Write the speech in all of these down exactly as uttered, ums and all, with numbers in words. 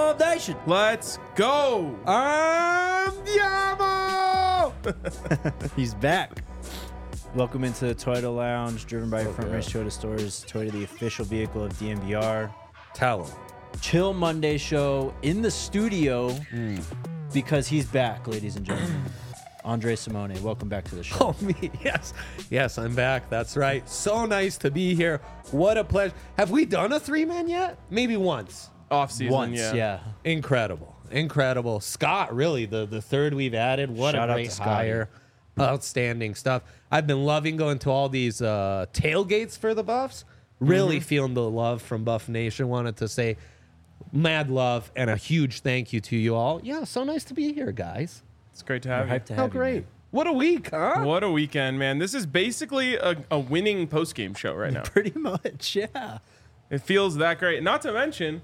Buff Nation. Let's go. Andiamo! He's back. Welcome into the Toyota Lounge, driven by Oh, Front yeah. Range Toyota Stores. Toyota, the official vehicle of D M V R. Tell him. Chill Monday show in the studio because he's back, ladies and gentlemen. Andre Simone, welcome back to the show. Oh, me. Yes. Yes, I'm back. That's right. So nice to be here. What a pleasure. Have we done a three-man yet? Maybe once. Off season, Once, yeah. yeah. Incredible. Incredible. Scott, really, the, the third we've added. What Shout a out great to Scotty. hire. Outstanding stuff. I've been loving going to all these uh, tailgates for the Buffs. Really Mm-hmm. feeling the love from Buff Nation. Wanted to say mad love and a huge thank you to you all. Yeah, so nice to be here, guys. It's great to We're have you. hyped to How have you, great. man. What a week, huh? What a weekend, man. This is basically a, a winning post-game show right now. Pretty much, yeah. It feels that great. Not to mention,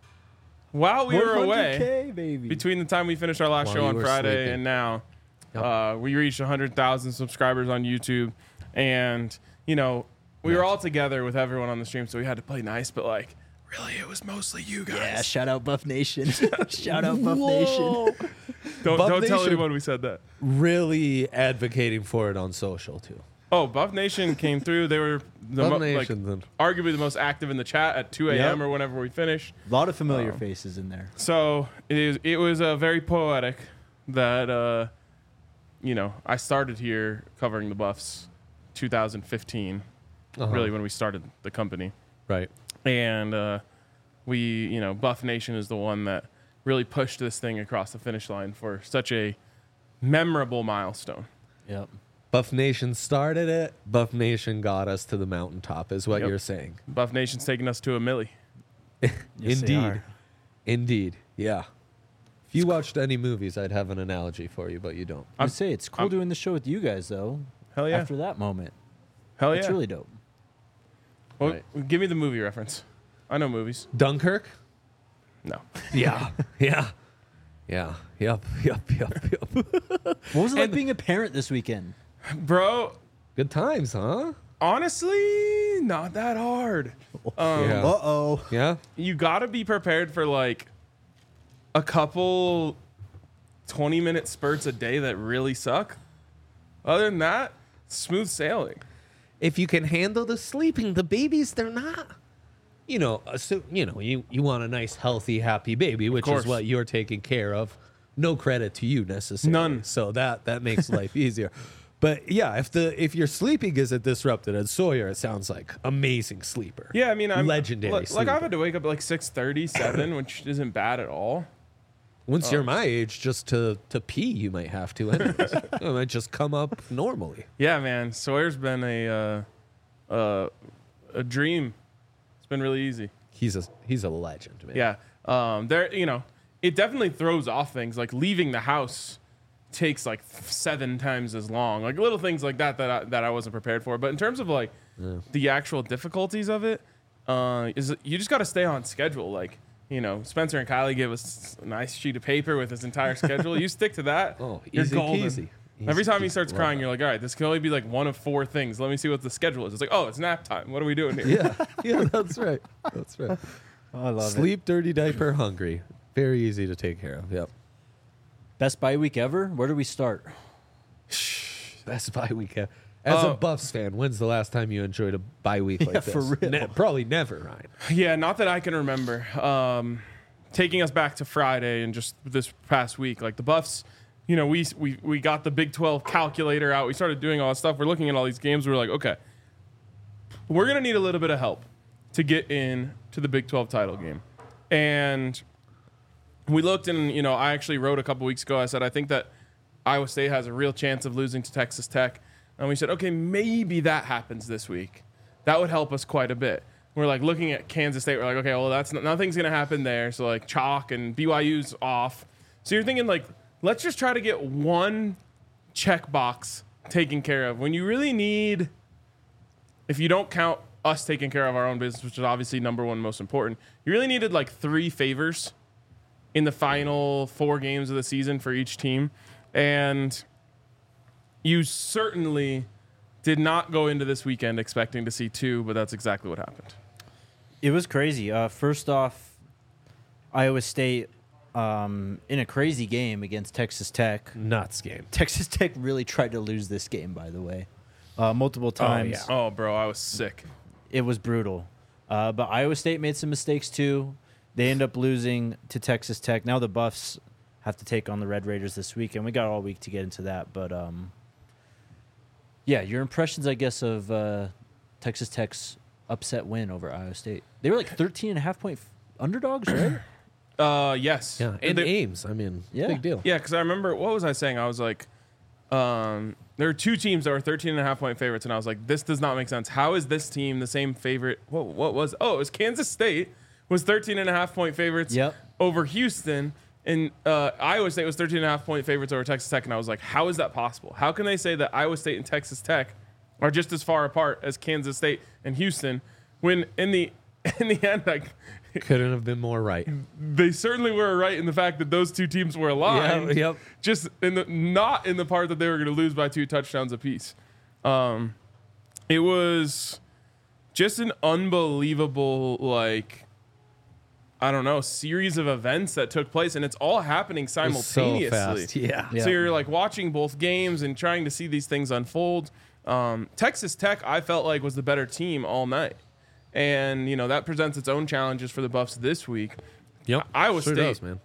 while we were one hundred away, K, baby. between the time we finished our last While show you on were Friday sleeping. and now, Yep. uh, we reached one hundred thousand subscribers on YouTube. And, you know, we were all together with everyone on the stream, so we had to play nice, but, like, really, it was mostly you guys. Yeah, shout out Buff Nation. Shout out Buff Nation. Don't, Buff don't tell Nation. anyone we said that. Really advocating for it on social, too. Oh, Buff Nation came through. They were the Buff mo- like, Nation, then. arguably the most active in the chat at two a.m. Yep. or whenever we finished. A lot of familiar Oh. faces in there. So it is. It was uh, very poetic that uh, you know I started here covering the Buffs, two thousand fifteen, Uh-huh. really when we started the company, Right. and uh, we you know Buff Nation is the one that really pushed this thing across the finish line for such a memorable milestone. Yep. Buff Nation started it. Buff Nation got us to the mountaintop, is what Yep. you're saying. Buff Nation's taking us to a milli. Yes, they Indeed. are. Indeed. Yeah. If you watched any movies, I'd have an analogy for you, but you don't. I would say it's cool I'm- doing the show with you guys, though. Hell yeah! After that moment, Hell yeah! it's really dope. Well, Right. give me the movie reference. I know movies. Dunkirk? No. Yeah. yeah. Yeah. Yep. Yep. Yep. Yep. What was it like And- being a parent this weekend? Bro, Good times, huh? honestly, not that hard. Um, Yeah. Uh oh. Yeah. You got to be prepared for like a couple twenty minute spurts a day that really suck. Other than that, smooth sailing. If you can handle the sleeping, the babies, they're not. You know, uh, so, you know, you, you want a nice, healthy, happy baby, which course. is what you're taking care of. No credit to you necessarily. None. So that that makes life easier. But yeah, if the if your sleeping isn't disrupted at Sawyer, it sounds like amazing sleeper. Yeah, I mean, I'm Legendary Like, like I've sleeper. had to wake up at like six thirty, seven, which isn't bad at all. Once Oh. you're my age, just to to pee, you might have to. Anyways. It might just come up normally. Yeah, man. Sawyer's been a uh, uh, a dream. It's been really easy. He's a he's a legend, man. Yeah. Um, there, you know, it definitely throws off things. Like leaving the house takes like seven times as long. Like little things like that that I, that I wasn't prepared for. But in terms of like the actual difficulties of it, uh, is you just got to stay on schedule. Like you know, Spencer and Kylie gave us a nice sheet of paper with his entire schedule. You stick to that. Oh, you're easy golden. peasy. Every Easy time he peasy. starts Love crying, that. you're like, all right, this can only be like one of four things. Let me see what the schedule is. It's like, oh, it's nap time. What are we doing here? Yeah, yeah, that's right. That's right. Oh, I love it. Sleep, dirty diaper, hungry. Very easy to take care of. Yep. Best bye week ever? Where do we start? Best bye week. ever. As Oh. a Buffs fan, when's the last time you enjoyed a bye week like Yeah, this? for real. Ne- probably never, Ryan. Yeah, not that I can remember. Um, taking us back to Friday and just this past week, like the Buffs, you know, we we we got the Big twelve calculator out. We started doing all that stuff. We're looking at all these games. We're like, okay, we're gonna need a little bit of help to get in to the Big twelve title game. And we looked, and you know, I actually wrote a couple weeks ago. I said I think that Iowa State has a real chance of losing to Texas Tech. And we said, okay, maybe that happens this week. That would help us quite a bit. We're like looking at Kansas State. We're like, okay, well, that's not, nothing's going to happen there. So like chalk and B Y U's off. So you're thinking like, let's just try to get one checkbox taken care of. When you really need, if you don't count us taking care of our own business, which is obviously number one most important, you really needed like three favors in the final four games of the season for each team. And you certainly did not go into this weekend expecting to see two, but that's exactly what happened. It was crazy. Uh, first off, Iowa State um, in a crazy game against Texas Tech. Nuts game. Texas Tech really tried to lose this game, by the way, uh, multiple times. yeah. Oh, bro, I was sick. It was brutal. Uh, but Iowa State made some mistakes too. They end up losing to Texas Tech. Now the Buffs have to take on the Red Raiders this week, and we got all week to get into that. But um, yeah, your impressions, I guess, of uh, Texas Tech's upset win over Iowa State. They were like thirteen and a half point f- underdogs, right? Uh, yes. Yeah, and They- Ames. I mean, Yeah. big deal. Yeah, because I remember, what was I saying? I was like, um, there were two teams that were thirteen and a half point favorites, and I was like, this does not make sense. How is this team the same favorite? What, what was, oh, it was Kansas State was thirteen and a half point favorites Yep. over Houston, and uh, Iowa State was thirteen and a half point favorites over Texas Tech, and I was like, how is that possible? How can they say that Iowa State and Texas Tech are just as far apart as Kansas State and Houston when in the in the end, like, Couldn't have been more right. they certainly were right in the fact that those two teams were aligned. Yeah, yep. Just in the not in the part that they were going to lose by two touchdowns apiece. Um, it was just an unbelievable, like, I don't know, series of events that took place, and it's all happening simultaneously. So fast. Yeah. Yeah. So you're like watching both games and trying to see these things unfold. Um, Texas Tech, I felt like, was the better team all night. And, you know, that presents its own challenges for the Buffs this week. Yep. Iowa Sure State, does, man.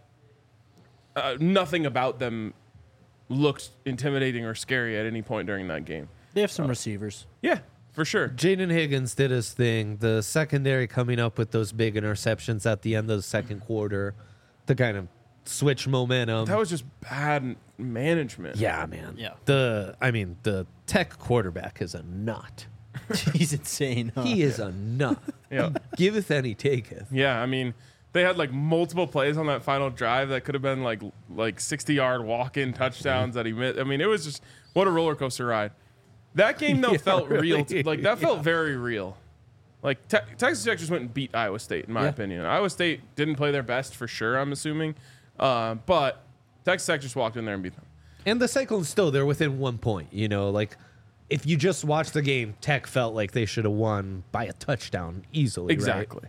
uh, nothing about them looked intimidating or scary at any point during that game. They have some receivers. Yeah, for sure. Jaden Higgins did his thing. The secondary coming up with those big interceptions at the end of the second quarter to kind of switch momentum. That was just bad management. yeah, man. Yeah. The I mean, the Tech quarterback is a nut. He's insane. Huh? He is a nut. Yeah. Giveth and he taketh. Yeah, I mean, they had like multiple plays on that final drive that could have been like like sixty-yard walk-in touchdowns that he missed. I mean, it was just what a roller coaster ride. That game though Yeah, felt real. really. Like that felt very real. Like te- Texas Tech just went and beat Iowa State, in my Yeah. opinion. Iowa State didn't play their best for sure, I'm assuming, uh, but Texas Tech just walked in there and beat them. And the Cyclones still, they're within one point. You know, like if you just watch the game, Tech felt like they should have won by a touchdown easily. Exactly.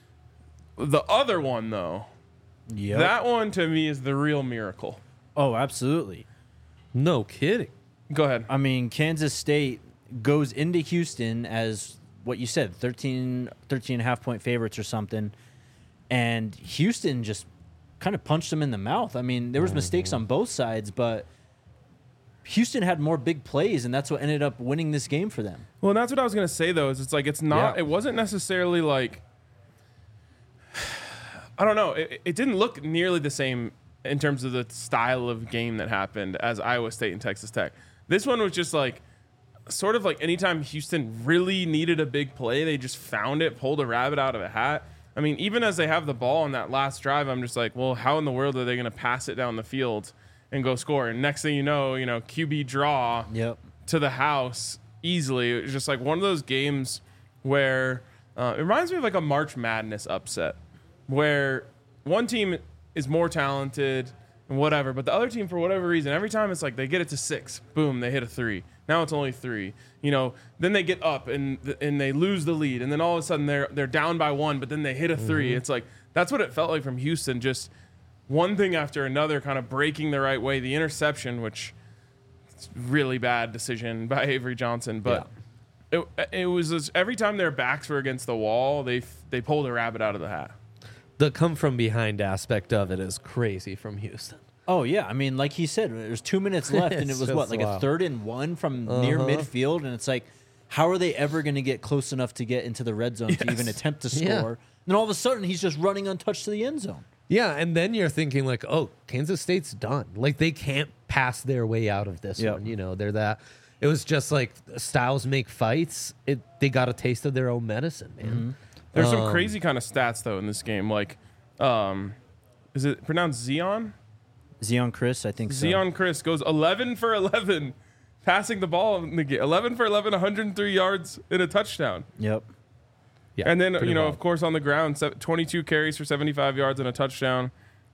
The other one though, Yep. that one to me is the real miracle. Oh, absolutely. Right? No kidding. Go ahead. I mean, Kansas State goes into Houston as what you said, thirteen, thirteen and a half point favorites or something. And Houston just kind of punched them in the mouth. I mean, there was mistakes on both sides, but Houston had more big plays, and that's what ended up winning this game for them. Well, and that's what I was gonna say though. Is it's like it's not. Yeah. It wasn't necessarily like. I don't know. It, it didn't look nearly the same in terms of the style of game that happened as Iowa State and Texas Tech. This one was just like, sort of like anytime Houston really needed a big play, they just found it, pulled a rabbit out of a hat. I mean, even as they have the ball on that last drive, I'm just like, well, how in the world are they going to pass it down the field and go score? And next thing you know, you know, Q B draw Yep. to the house easily. It was just like one of those games where uh, it reminds me of like a March Madness upset where one team is more talented and whatever, but the other team, for whatever reason, every time it's like they get it to six, boom, they hit a three. Now it's only three. You know, then they get up and and they lose the lead, and then all of a sudden they're they're down by one, but then they hit a three. Mm-hmm. It's like that's what it felt like from Houston, just one thing after another, kind of breaking the right way. The interception, which it's really bad decision by Avery Johnson, but it it was just, every time their backs were against the wall, they f- they pulled a rabbit out of the hat. The come from behind aspect of it is crazy from Houston. Oh, yeah. I mean, like he said, there's two minutes left, and it It's was just what, like a wild. third and one from near Uh-huh. midfield? And it's like, how are they ever going to get close enough to get into the red zone to Yes. even attempt to score? Yeah. And then all of a sudden, he's just running untouched to the end zone. Yeah, and then you're thinking like, oh, Kansas State's done. Like they can't pass their way out of this Yep. one. You know, they're that. It was just like styles make fights. It they got a taste of their own medicine, man. There's some Um, crazy kind of stats though in this game, like um, is it pronounced Zion? Zion Chris, I think so. Zion Chris goes eleven for eleven, passing the ball in the game. eleven for eleven, one hundred three yards and a touchdown. Yep. Yeah, And then, pretty you know, wild. of course, on the ground, se- twenty-two carries for seventy-five yards and a touchdown.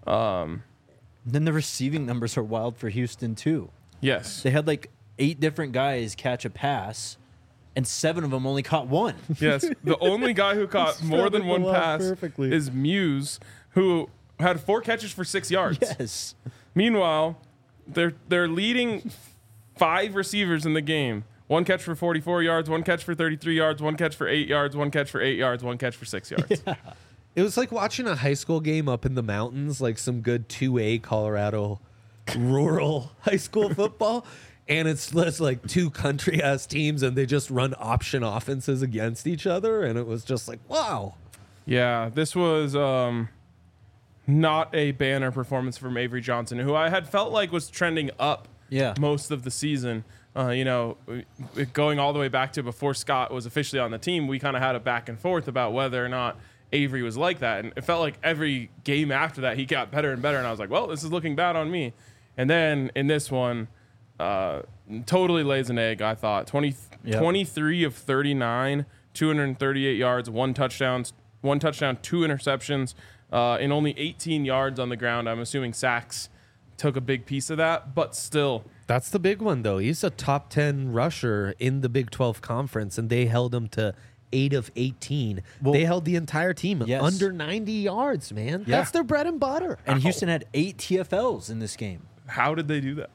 Um, Then the receiving numbers are wild for Houston, too. yes. They had like eight different guys catch a pass, and seven of them only caught one. Yes. The only guy who caught more than the one ball pass perfectly. is Muse, who had four catches for six yards. Yes. Meanwhile, they're they're leading five receivers in the game. One catch for forty-four yards, one catch for thirty-three yards, one catch for eight yards, one catch for eight yards, one catch for six yards. Yeah. It was like watching a high school game up in the mountains, like some good two A Colorado rural high school football. And it's just like two country ass teams, and they just run option offenses against each other. And it was just like, wow. Yeah, this was um, not a banner performance from Avery Johnson, who I had felt like was trending up Yeah. most of the season. Uh, you know, going all the way back to before Scott was officially on the team, we kind of had a back and forth about whether or not Avery was like that. And it felt like every game after that, he got better and better. And I was like, well, this is looking bad on me. And then in this one, uh, totally lays an egg, I thought. twenty, Yep. twenty-three of thirty-nine, two hundred thirty-eight yards, one touchdown, one touchdown, two interceptions, uh, and only eighteen yards on the ground. I'm assuming sacks took a big piece of that, but still. That's the big one, though. He's a top ten rusher in the Big twelve conference, and they held him to eight of eighteen. Well, they held the entire team yes. under ninety yards, man. Yeah. That's their bread and butter. And Ow. Houston had eight T F Ls in this game. How did they do that?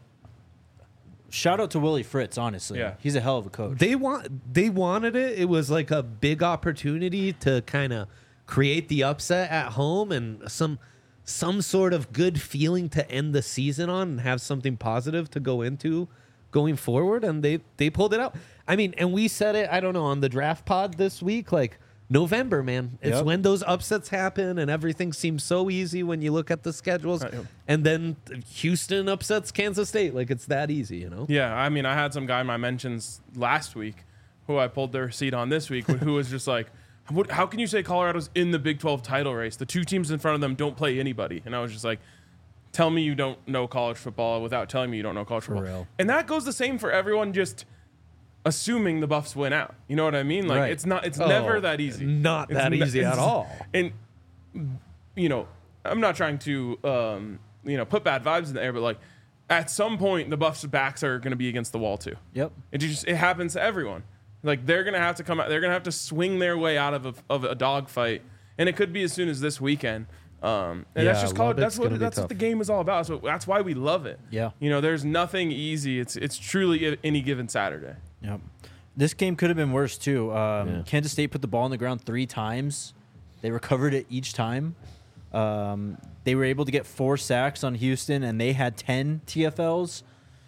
Shout out to Willie Fritz, honestly. Yeah. He's a hell of a coach. They want they wanted it. It was like a big opportunity to kind of create the upset at home and some some sort of good feeling to end the season on and have something positive to go into going forward, and they they pulled it out. I mean, and we said it, I don't know, on the draft pod this week, like November, man. It's Yep. when those upsets happen and everything seems so easy when you look at the schedules. Right. And then Houston upsets Kansas State. Like, it's that easy, you know? Yeah, I mean, I had some guy in my mentions last week who I pulled their receipt on this week, who was just like, what, how can you say Colorado's in the Big twelve title race? The two teams in front of them don't play anybody. And I was just like, tell me you don't know college football without telling me you don't know college football. real. And that goes the same for everyone just assuming the Buffs win out. You know what I mean? Like, Right. it's not, it's Oh, never that easy. Not It's that ne- easy at it's- all. And, you know, I'm not trying to, um, you know, put bad vibes in the air, but like, at some point, the Buffs' backs are going to be against the wall too. Yep. It just it happens to everyone. Like they're gonna have to come out. They're gonna have to swing their way out of a, of a dogfight, and it could be as soon as this weekend. Um, and that's Yeah, just college. That's Lubbock's gonna what be that's what tough. the game is all about. So that's why we love it. Yeah. You know, there's nothing easy. It's it's truly any given Saturday. Yep. This game could have been worse too. Um, Yeah. Kansas State put the ball on the ground three times. They recovered it each time. Um, they were able to get four sacks on Houston, and they had ten T F Ls.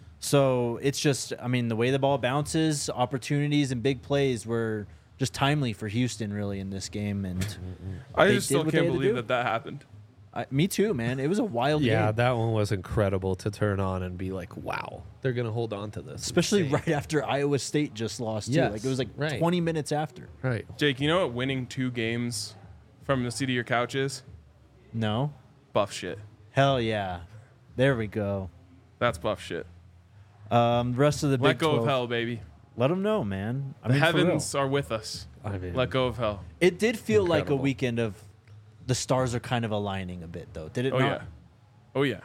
So it's just, I mean, the way the ball bounces, opportunities and big plays were just timely for Houston, really, in this game. And I They just did still what they can't had to believe do. that that happened. I, me too, man. It was a wild Yeah, game, that one was incredible to turn on and be like, wow, they're going to hold on to this. especially Insane. right after Iowa State just lost too. Yes, Like it was like right. twenty minutes after. Right. Jake, you know what winning two games from the seat of your couch is? No, Buff shit. hell yeah, there we go. That's buff shit. Um, the rest of the Let Big go twelve, of hell, baby. let them know, man. I The mean, for real. heavens are with us. I mean, Let go of hell. It did feel like a Incredible. weekend of the stars are kind of aligning a bit, though. Did it Oh not? yeah. Oh yeah.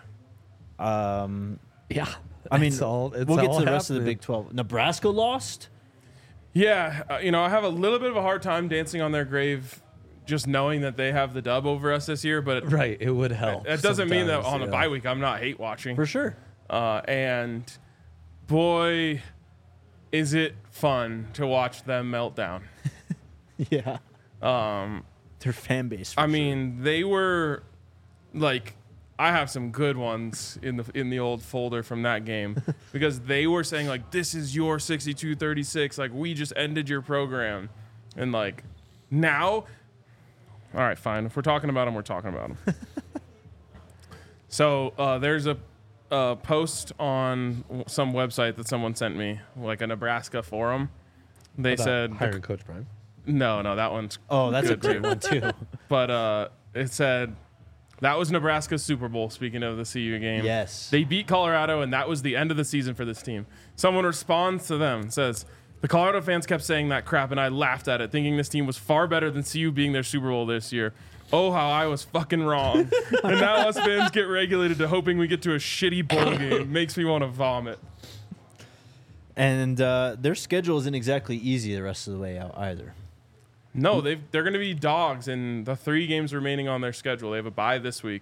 Um, yeah. I mean, It's all, it's we'll get all to the rest of the happening. Big twelve. Nebraska lost. Yeah, uh, you know, I have a little bit of a hard time dancing on their grave, just knowing that they have the dub over us this year. But Right. It would help. that doesn't mean that sometimes, on a yeah. bye week I'm not hate watching. For sure. Uh, and boy, is it fun to watch them melt down. Yeah. Um, Their fan base. For I sure. mean, they were like, I have some good ones in the in the old folder from that game because they were saying like, this is your sixty-two thirty-six, like we just ended your program, and like now, all right, fine. If we're talking about them, we're talking about them. So uh, there's a, a post on w- some website that someone sent me, like a Nebraska forum. They About said hiring Coach Prime. no, no, that one's oh, that's a good great too. one too. But uh, it said that was Nebraska's Super Bowl. Speaking of the C U game, Yes. they beat Colorado, and that was the end of the season for this team. Someone responds to them and says, "The Colorado fans kept saying that crap, and I laughed at it, thinking this team was far better than C U being their Super Bowl this year. Oh, how I was fucking wrong. And now us fans get regulated to hoping we get to a shitty bowl game. Makes me want to vomit." And uh, their schedule isn't exactly easy the rest of the way out either. No, they've, they're going to be dogs in the three games remaining on their schedule. They have a bye this week.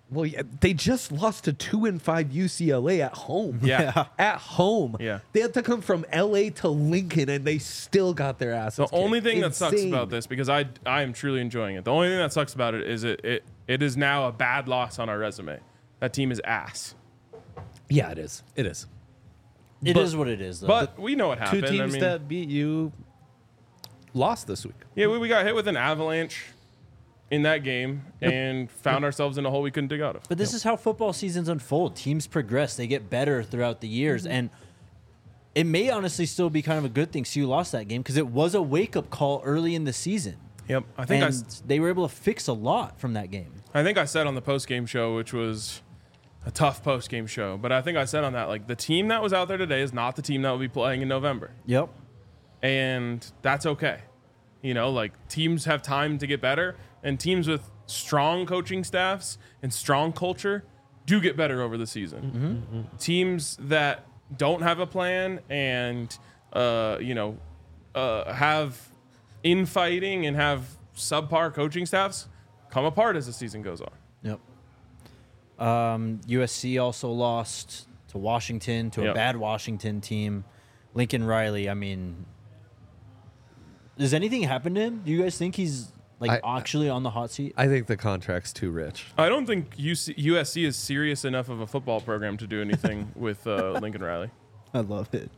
Well, yeah, they just lost to two and five U C L A at home. Yeah. At home. Yeah. They had to come from L A to Lincoln, and they still got their asses The only kicked. thing that sucks Insane. about this, because I I am truly enjoying it. The only thing that sucks about it is it it, it is now a bad loss on our resume. That team is ass. Yeah, it is. It is. It is But- what it is, though. But we know what Two happened. teams I mean, that beat you lost this week. yeah, we, we got hit with an avalanche in that game and found ourselves in a hole we couldn't dig out of. But this is how football seasons unfold. Teams progress; they get better throughout the years, and it may honestly still be kind of a good thing. So you lost that game because it was a wake-up call early in the season. Yep, I think I, and s- they were able to fix a lot from that game. I think I said on the post game show, which was a tough post game show, but I think I said on that, like, the team that was out there today is not the team that will be playing in November, Yep. and that's okay. You know, like, teams have time to get better, and teams with strong coaching staffs and strong culture do get better over the season. Mm-hmm. Teams that don't have a plan and uh, you know uh, have infighting and have subpar coaching staffs come apart as the season goes on. Yep. Um, U S C also lost to Washington, to a Yep. bad Washington team. Lincoln Riley, I mean, does anything happen to him? Do you guys think he's like I- actually on the hot seat? I think the contract's too rich. I don't think U C, U S C is serious enough of a football program to do anything with uh, Lincoln Riley. I love it.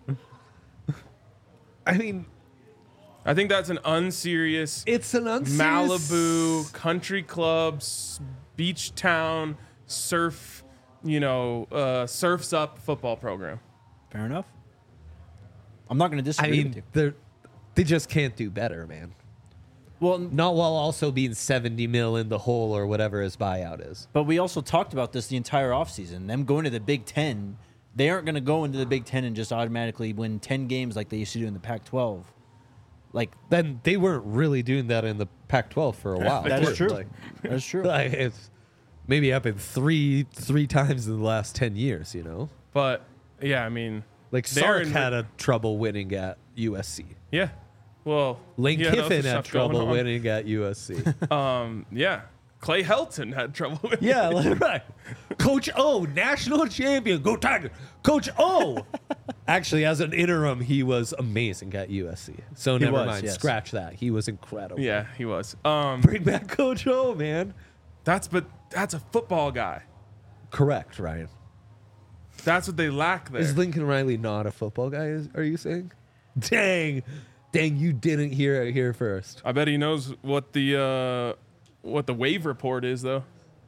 I mean, I think that's an unserious it's an unserious Malibu country clubs, beach town, surf, you know, uh, surfs up football program. Fair enough. I'm not going to I disagree with mean, you. they they just can't do better, man. Well, Not while also being seventy mil in the hole or whatever his buyout is. but we also talked about this the entire offseason. Them going to the Big Ten, they aren't going to go into the Big Ten and just automatically win ten games like they used to do in the Pac twelve. Like, Then they weren't really doing that in the Pac twelve for a while. that is too. true. Like, That's true. like it's maybe happened three three times in the last ten years. You know, But yeah, I mean, like they're Sark in- had a trouble winning at U S C. yeah. Well, Lane he had other Kiffin had stuff going trouble on. winning at U S C. Um, yeah. Clay Helton had trouble with Yeah, like, right. Coach O, national champion. Go Tiger. Coach O. Actually, as an interim, he was amazing at U S C. So He never was, mind. yes. Scratch that. He was incredible. Yeah, he was. Um, Bring back Coach O, man. that's but that's a football guy. Correct, Ryan. That's what they lack there. Is Lincoln Riley not a football guy, is, are you saying? Dang. Dang, you didn't hear it here first. I bet he knows what the uh, what the wave report is, though.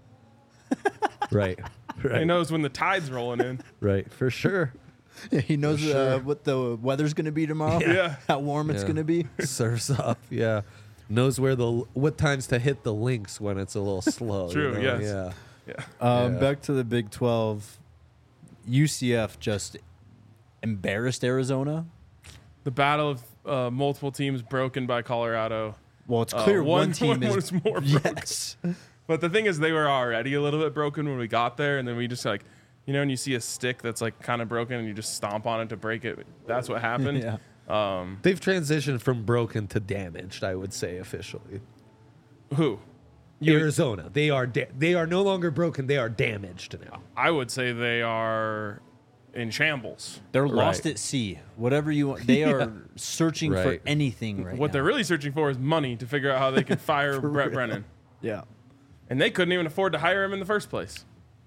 Right. He Right. knows when the tide's rolling in. Right. For sure. Yeah, he knows For sure. uh, what the weather's going to be tomorrow. Yeah. How warm it's Yeah. going to be. Surfs up. Yeah. Knows where the what times to hit the links when it's a little slow. you True, know? yes. Yeah. Yeah. Um, Yeah. Back to the Big twelve. U C F just embarrassed Arizona. The battle of uh, multiple teams broken by Colorado. Well, it's Uh, clear one, one- team one is was more broken. yes. But the thing is, they were already a little bit broken when we got there, and then we just like, you know, when you see a stick that's like kind of broken and you just stomp on it to break it. That's what happened. Yeah. Um, They've transitioned from broken to damaged, I would say officially. who? Arizona, they are da- they are no longer broken, they are damaged now. I would say they are in shambles. They're lost Right. at sea. Whatever you want. They are searching Right. for anything right What now. they're really searching for is money to figure out how they can fire Brett real. Brennan. Yeah. And they couldn't even afford to hire him in the first place.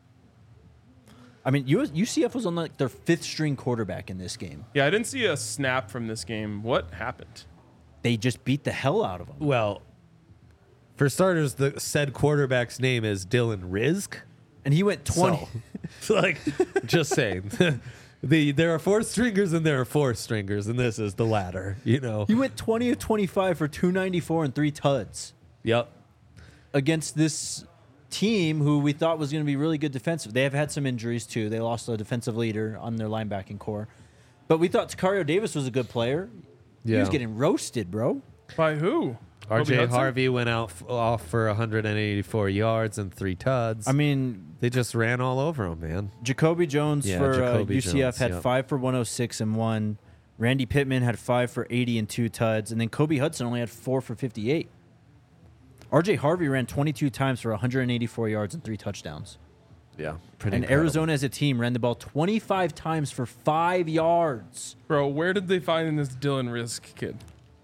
I mean, U- UCF was on like their fifth string quarterback in this game. Yeah, I didn't see a snap from this game. What happened? They just beat the hell out of them. Well, for starters, the said quarterback's name is Dylan Rizk. And he went twenty. So, like, just saying. the there are four stringers and there are four stringers, and this is the latter, you know. He went twenty of twenty-five for two ninety-four and three tuds Yep. against this team who we thought was going to be really good defensive. They have had some injuries too. They lost a defensive leader on their linebacking core. But we thought Takario Davis was a good player. He was Yeah. getting roasted, bro. By who? R Kobe J Hudson? Harvey went out f- off for one hundred eighty-four yards and three tuds. I mean, they just ran all over him, man. Jacoby Jones Yeah, for Jacoby uh, U C F Jones, had yep. five for one oh six and one. Randy Pittman had five for eighty and two tuds. And then Kobe Hudson only had four for fifty-eight. R J Harvey ran twenty-two times for one hundred eighty-four yards and three touchdowns. Yeah, pretty And incredible. Arizona as a team ran the ball twenty-five times for five yards. Bro, where did they find this Dylan Risk kid?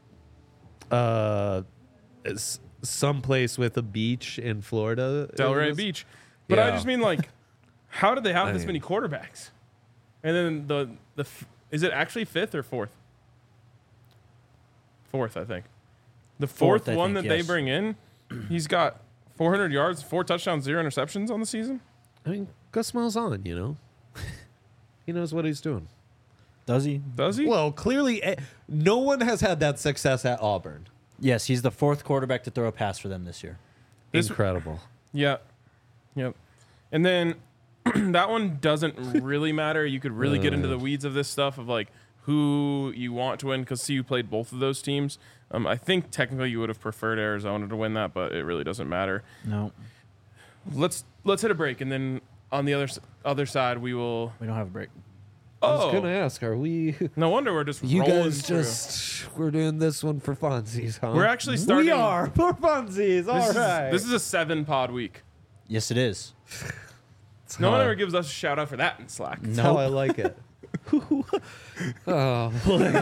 Uh, it's someplace with a beach in Florida. Delray It was- Beach. But I Yeah. just mean, like, how did they have I this mean- many quarterbacks? And then the the f- is it actually fifth or fourth? Fourth, I think. The fourth, Fourth, I one think, that they yes. bring in, he's got four hundred yards, four touchdowns, zero interceptions on the season. I mean, Gus Malzahn, you know, he knows what he's doing. Does he? Does he? Well, clearly, eh, no one has had that success at Auburn. Yes, he's the fourth quarterback to throw a pass for them this year. This- Incredible. Yeah. Yep. And then that one doesn't really matter. You could really get into the weeds of this stuff of like who you want to win because see you played both of those teams. Um, I think technically you would have preferred Arizona to win that, but it really doesn't matter. No, Let's let's hit a break and then on the other s- other side we will. we don't have a break. I was Oh, gonna ask, are we? no wonder we're just You rolling guys through. just we're doing this one for funsies, huh? We're actually starting- We are for funsies. All This right. is, this is a seven pod week. Yes, it is. No one how- ever gives us a shout out for that in Slack. That's how I Nope. like it. oh,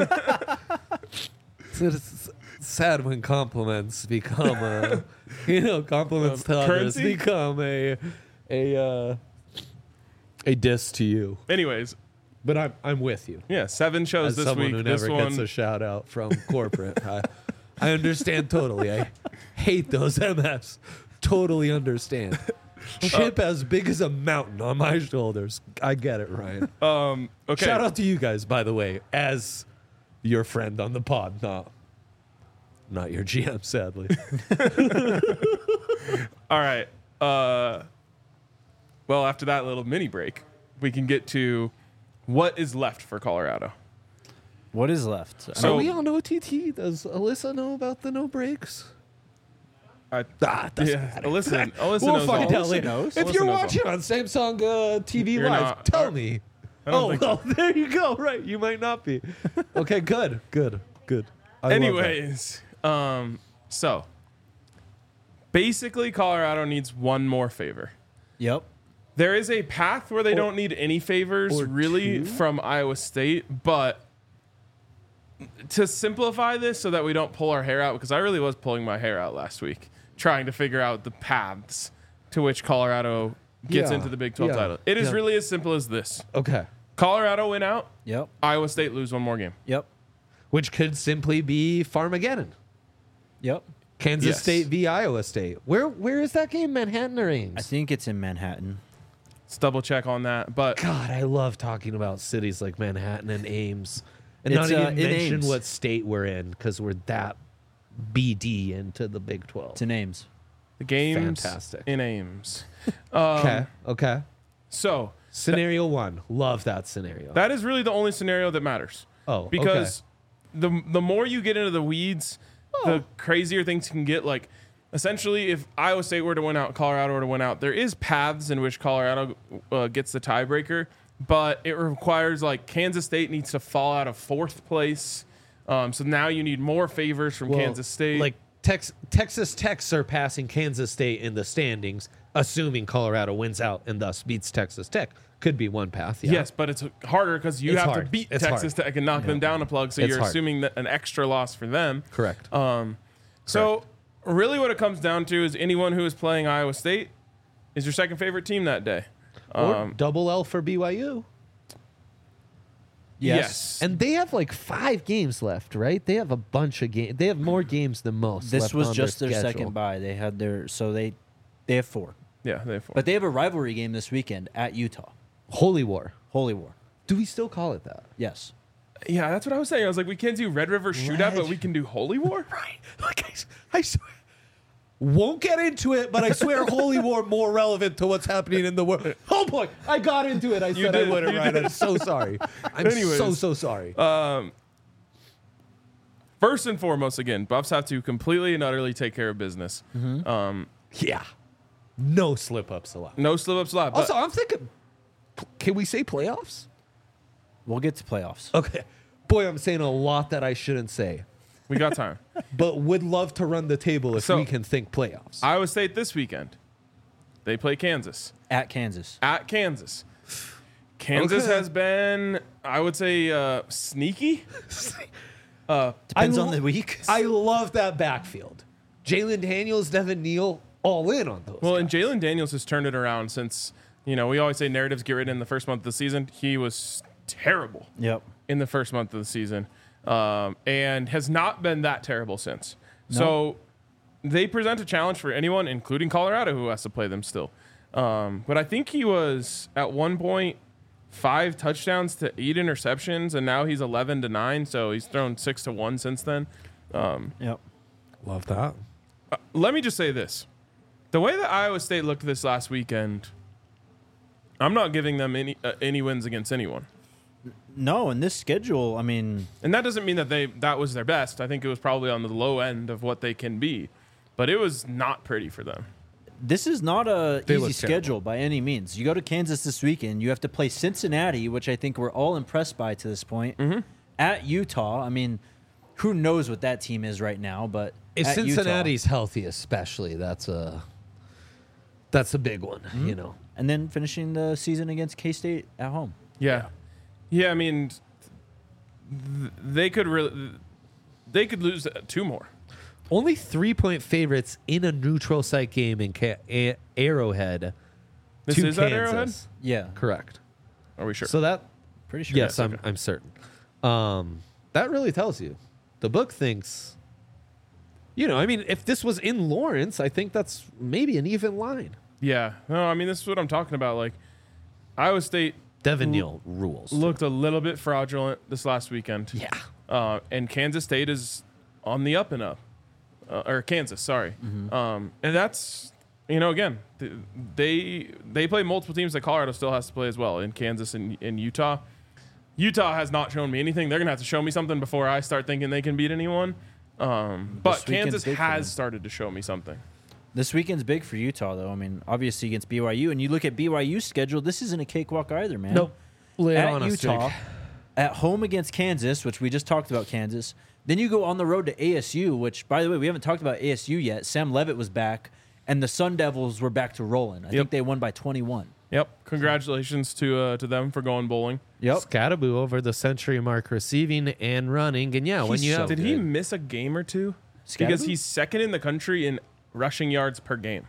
it's, it's sad when compliments become a, you know, compliments to others currency? become a, a, uh, a diss to you. Anyways, But I'm, I'm with you. yeah, seven shows As this someone week. who This never one, gets a shout out from corporate, I, I understand totally. I hate those M Fs. Totally understand. Chip as big as a mountain on my shoulders. I get it, Ryan. um, okay. Shout out to you guys, by the way, as your friend on the pod, not not your G M, sadly. All right. Uh, well, after that little mini break, we can get to what is left for Colorado. What is left? So- Are we on O T T? Does Alyssa know about the no breaks? I, Ah, it doesn't yeah, matter. Alyssa, Alyssa We'll knows find all. out later. knows. If Alyssa you're knows all. watching on Samsung uh, T V You're Live, not. tell Are- me. I don't Oh, think well, so. there you go. Right, you might not be. Okay, good, good, good. I love that. Anyways, um, so basically, Colorado needs one more favor. Yep. There is a path where they Or- don't need any favors or really two? from Iowa State, but to simplify this so that we don't pull our hair out, because I really was pulling my hair out last week trying to figure out the paths to which Colorado gets Yeah, into the Big twelve yeah, title. It is yeah. really as simple as this. Okay. Colorado win out, Yep. Iowa State lose one more game. Yep. Which could simply be Farmageddon. Yep. Kansas Yes. State v Iowa State. Where where is that game? Manhattan or Ames? I think it's in Manhattan. Let's double check on that. But God, I love talking about cities like Manhattan and Ames, and It's, not uh, even in mention Ames. what state we're in because we're that B D into the Big twelve. It's in Ames. the game's Fantastic. in Ames. Um, Okay, okay. So Scenario one, love that scenario. that is really the only scenario that matters. oh, Because the the more you get into the weeds, the crazier things can get. Like, essentially, if Iowa State were to win out, Colorado were to win out, there is paths in which Colorado uh, gets the tiebreaker, but it requires, like, Kansas State needs to fall out of fourth place. Um, so now you need more favors from Well, Kansas State. Like Tex- Texas Tech surpassing Kansas State in the standings, assuming Colorado wins out and thus beats Texas Tech, could be one path. Yeah. Yes, but it's harder because you It's have to hard. beat It's Texas hard. Tech and knock them down a plug. So It's you're hard. assuming that an extra loss for them. Correct. Um, so really, what it comes down to is anyone who is playing Iowa State is your second favorite team that day. or Um, double L for B Y U. yes. And they have like five games left, right? They have a bunch of games. They have more games than most. This left was on just their, schedule. second bye. They had their so they they have four, yeah, they have four. but they have a rivalry game this weekend at Utah. Holy War. Holy War. Do we still call it that? Yes. yeah, that's what I was saying. I was like, we can't do Red River Shootout, but we can do Holy War. Right. Like I, I swear. Won't get into it, but I swear Holy War more relevant to what's happening in the world. Oh boy, I got into it. I said did, I wouldn't, you right? did. I'm so sorry. I'm Anyways. so, so sorry. Um, first and foremost, again, Buffs have to completely and utterly take care of business. Um, yeah. No slip ups allowed. no slip ups allowed. But Also, I'm thinking, can we say playoffs? We'll get to playoffs. Okay. Boy, I'm saying a lot that I shouldn't say, we got time. but would love to run the table if So- we can think playoffs. Iowa State this weekend. They play Kansas. At Kansas. At Kansas. Kansas Okay. has been, I would say, uh, sneaky. Uh, Depends I on lo- the week. I love that backfield. Jalen Daniels, Devin Neal, all in on those. well, and guys. Jalen Daniels has turned it around since, you know, we always say narratives get written in the first month of the season. He was terrible Yep. in the first month of the season um, and has not been that terrible since. So they present a challenge for anyone, including Colorado, who has to play them still. Um, but I think he was at one point five touchdowns to eight interceptions, and now he's eleven to nine. So he's thrown six to one since then. Um, Yep. love that. uh, let me just say this: the way that Iowa State looked this last weekend, I'm not giving them any uh, any wins against anyone. No, in this schedule, I mean, And that doesn't mean that they that was their best. I think it was probably on the low end of what they can be, but it was not pretty for them. this is not a They easy look schedule terrible. by any means. You go to Kansas this weekend. You have to play Cincinnati, which I think we're all impressed by to this point. Mm-hmm. At Utah, I mean, who knows what that team is right now? But If at Utah- Cincinnati's healthy, especially, that's a that's a big one. You know, and then finishing the season against K State at home. Yeah, yeah. I mean, th- they could really they could lose two more. only three point favorites in a neutral site game in Ca- a- Arrowhead. This to is at Kansas. Arrowhead? Yeah, Correct. Are we sure? So that pretty sure. yes, okay. I'm I'm certain. Um, that really tells you. The book thinks. You know, I mean, if this was in Lawrence, I think that's maybe an even line. yeah. No, I mean this is what I'm talking about. Like Iowa State Devin L- Neal rules. looked a little bit fraudulent this last weekend. Yeah. Uh, and Kansas State is on the up and up, uh, or Kansas, sorry. Um, and that's you know again th- they they play multiple teams that Colorado still has to play as well in Kansas and in Utah. Utah has not shown me anything. They're gonna have to show me something before I start thinking they can beat anyone. Um, but This weekend's Kansas big for them. has started to show me something. This weekend's big for Utah, though. I mean, obviously against B Y U, and you look at B Y U's schedule. This isn't a cakewalk either, man. Nope. Lay it At on us, Utah, Jake. at home against Kansas, which we just talked about Kansas. Then you go on the road to A S U, which, by the way, we haven't talked about A S U yet. Sam Levitt was back, and the Sun Devils were back to rolling. I Yep. think they won by twenty-one. Yep. Congratulations to uh, to them for going bowling. Yep. Scattaboo over the century mark receiving and running. And yeah, when He's you so have Did he good. miss a game or two? Because Scatterbo? he's second in the country in rushing yards per game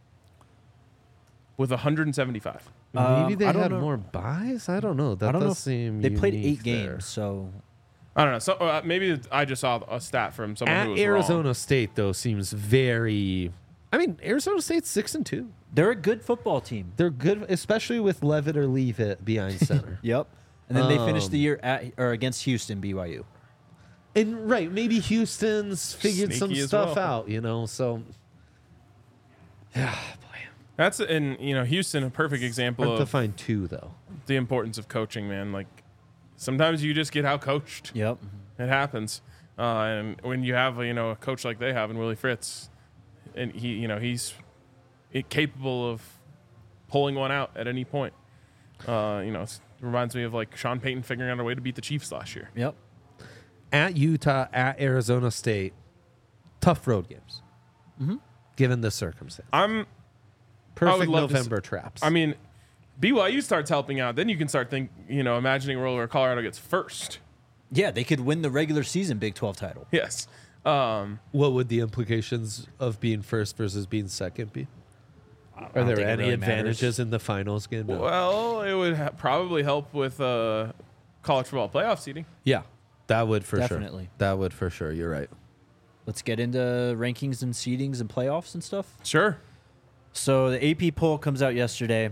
with one hundred seventy-five. maybe Um, they I don't had know. more buys. I don't know. That I don't does know. If seem they played unique eight there. games, so I don't know. So uh, maybe I just saw a stat from someone At who was Arizona wrong. State though seems very. I mean, Arizona State's six and two. they're a good football team. They're good, especially with Levitt or Leave It behind center. Yep. And then they finished the Um, year at or against Houston, B Y U. And right, maybe Houston's figured some Sneaky as stuff well. out, you know. So, yeah, boy, That's and you know Houston, a perfect example hard to of find two though. the importance of coaching. Man, like sometimes you just get out coached. Yep. It happens. Uh, and when you have you know a coach like they have in Willie Fritz, and he you know he's it capable of pulling one out at any point. Uh, you know, it reminds me of like Sean Payton figuring out a way to beat the Chiefs last year. Yep. At Utah, at Arizona State, tough road games. Mm-hmm. Given the circumstance, I'm. perfect love to s- November traps. I mean, B Y U starts helping out, then you can start think you know imagining a world where Colorado gets first. Yeah, they could win the regular season Big twelve title. Yes. Um, what would the implications of being first versus being second be? Are don't there think it any really advantages matters. in the finals game? No. well, it would ha- probably help with uh, college football playoff seeding. Yeah, that would for Definitely. sure. That would for sure. You're right. Let's get into rankings and seedings and playoffs and stuff. Sure. So the A P poll comes out yesterday,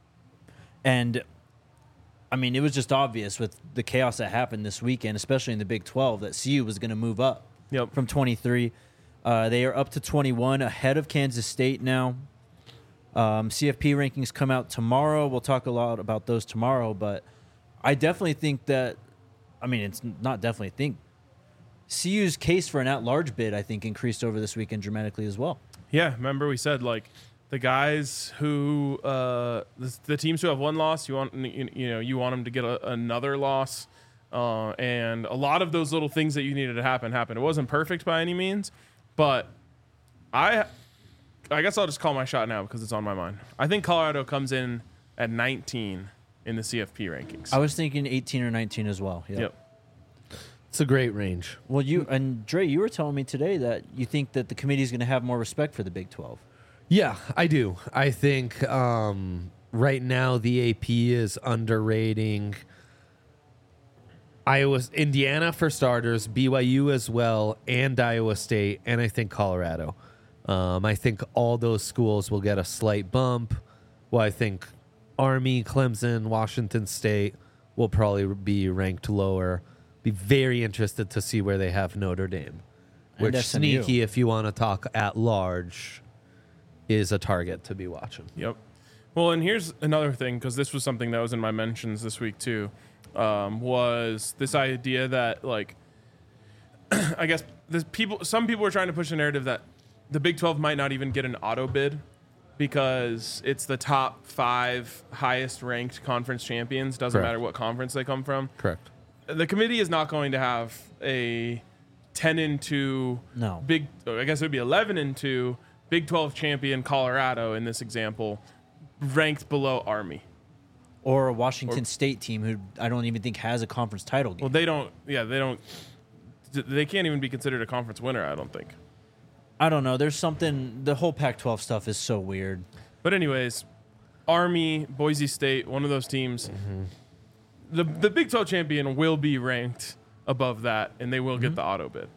and I mean, it was just obvious with the chaos that happened this weekend, especially in the Big twelve, that C U was going to move up Yep. from twenty-three. Uh, they are up to twenty-one, ahead of Kansas State now. Um, C F P rankings come out tomorrow. We'll talk a lot about those tomorrow, but I definitely think that, I mean, it's not definitely think, C U's case for an at-large bid, I think, increased over this weekend dramatically as well. Yeah. Remember we said like the guys who uh, the, the teams who have one loss, you want you, you know you want them to get a, another loss, uh, and a lot of those little things that you needed to happen happened. It wasn't perfect by any means, but I I guess I'll just call my shot now because it's on my mind. I think Colorado comes in at nineteen in the C F P rankings. I was thinking eighteen or nineteen as well. Yep. Yep. It's a great range. Well, you and Dre, you were telling me today that you think that the committee is going to have more respect for the Big twelve. Yeah, I do. I think um, right now the A P is underrating Iowa, Indiana for starters, B Y U as well, and Iowa State, and I think Colorado. Um, I think all those schools will get a slight bump. Well, I think Army, Clemson, Washington State will probably be ranked lower. Be very interested to see where they have Notre Dame, which And S M U. sneaky, if you want to talk at large, is a target to be watching. Yep. Well, and here's another thing, because this was something that was in my mentions this week too, um, was this idea that, like, I guess this people, some people are trying to push the narrative that the Big twelve might not even get an auto bid because it's the top five highest ranked conference champions. Doesn't Correct. matter what conference they come from. Correct. The committee is not going to have a ten and two No. big, I guess it would be eleven and two Big twelve champion Colorado in this example, ranked below Army. Or a Washington State team who I don't even think has a conference title game. Well, they don't, yeah, they don't, they can't even be considered a conference winner, I don't think. I don't know. There's something. The whole Pac twelve stuff is so weird. But anyways, Army, Boise State, one of those teams, Mm-hmm. the the Big twelve champion will be ranked above that, and they will Mm-hmm. get the auto bid.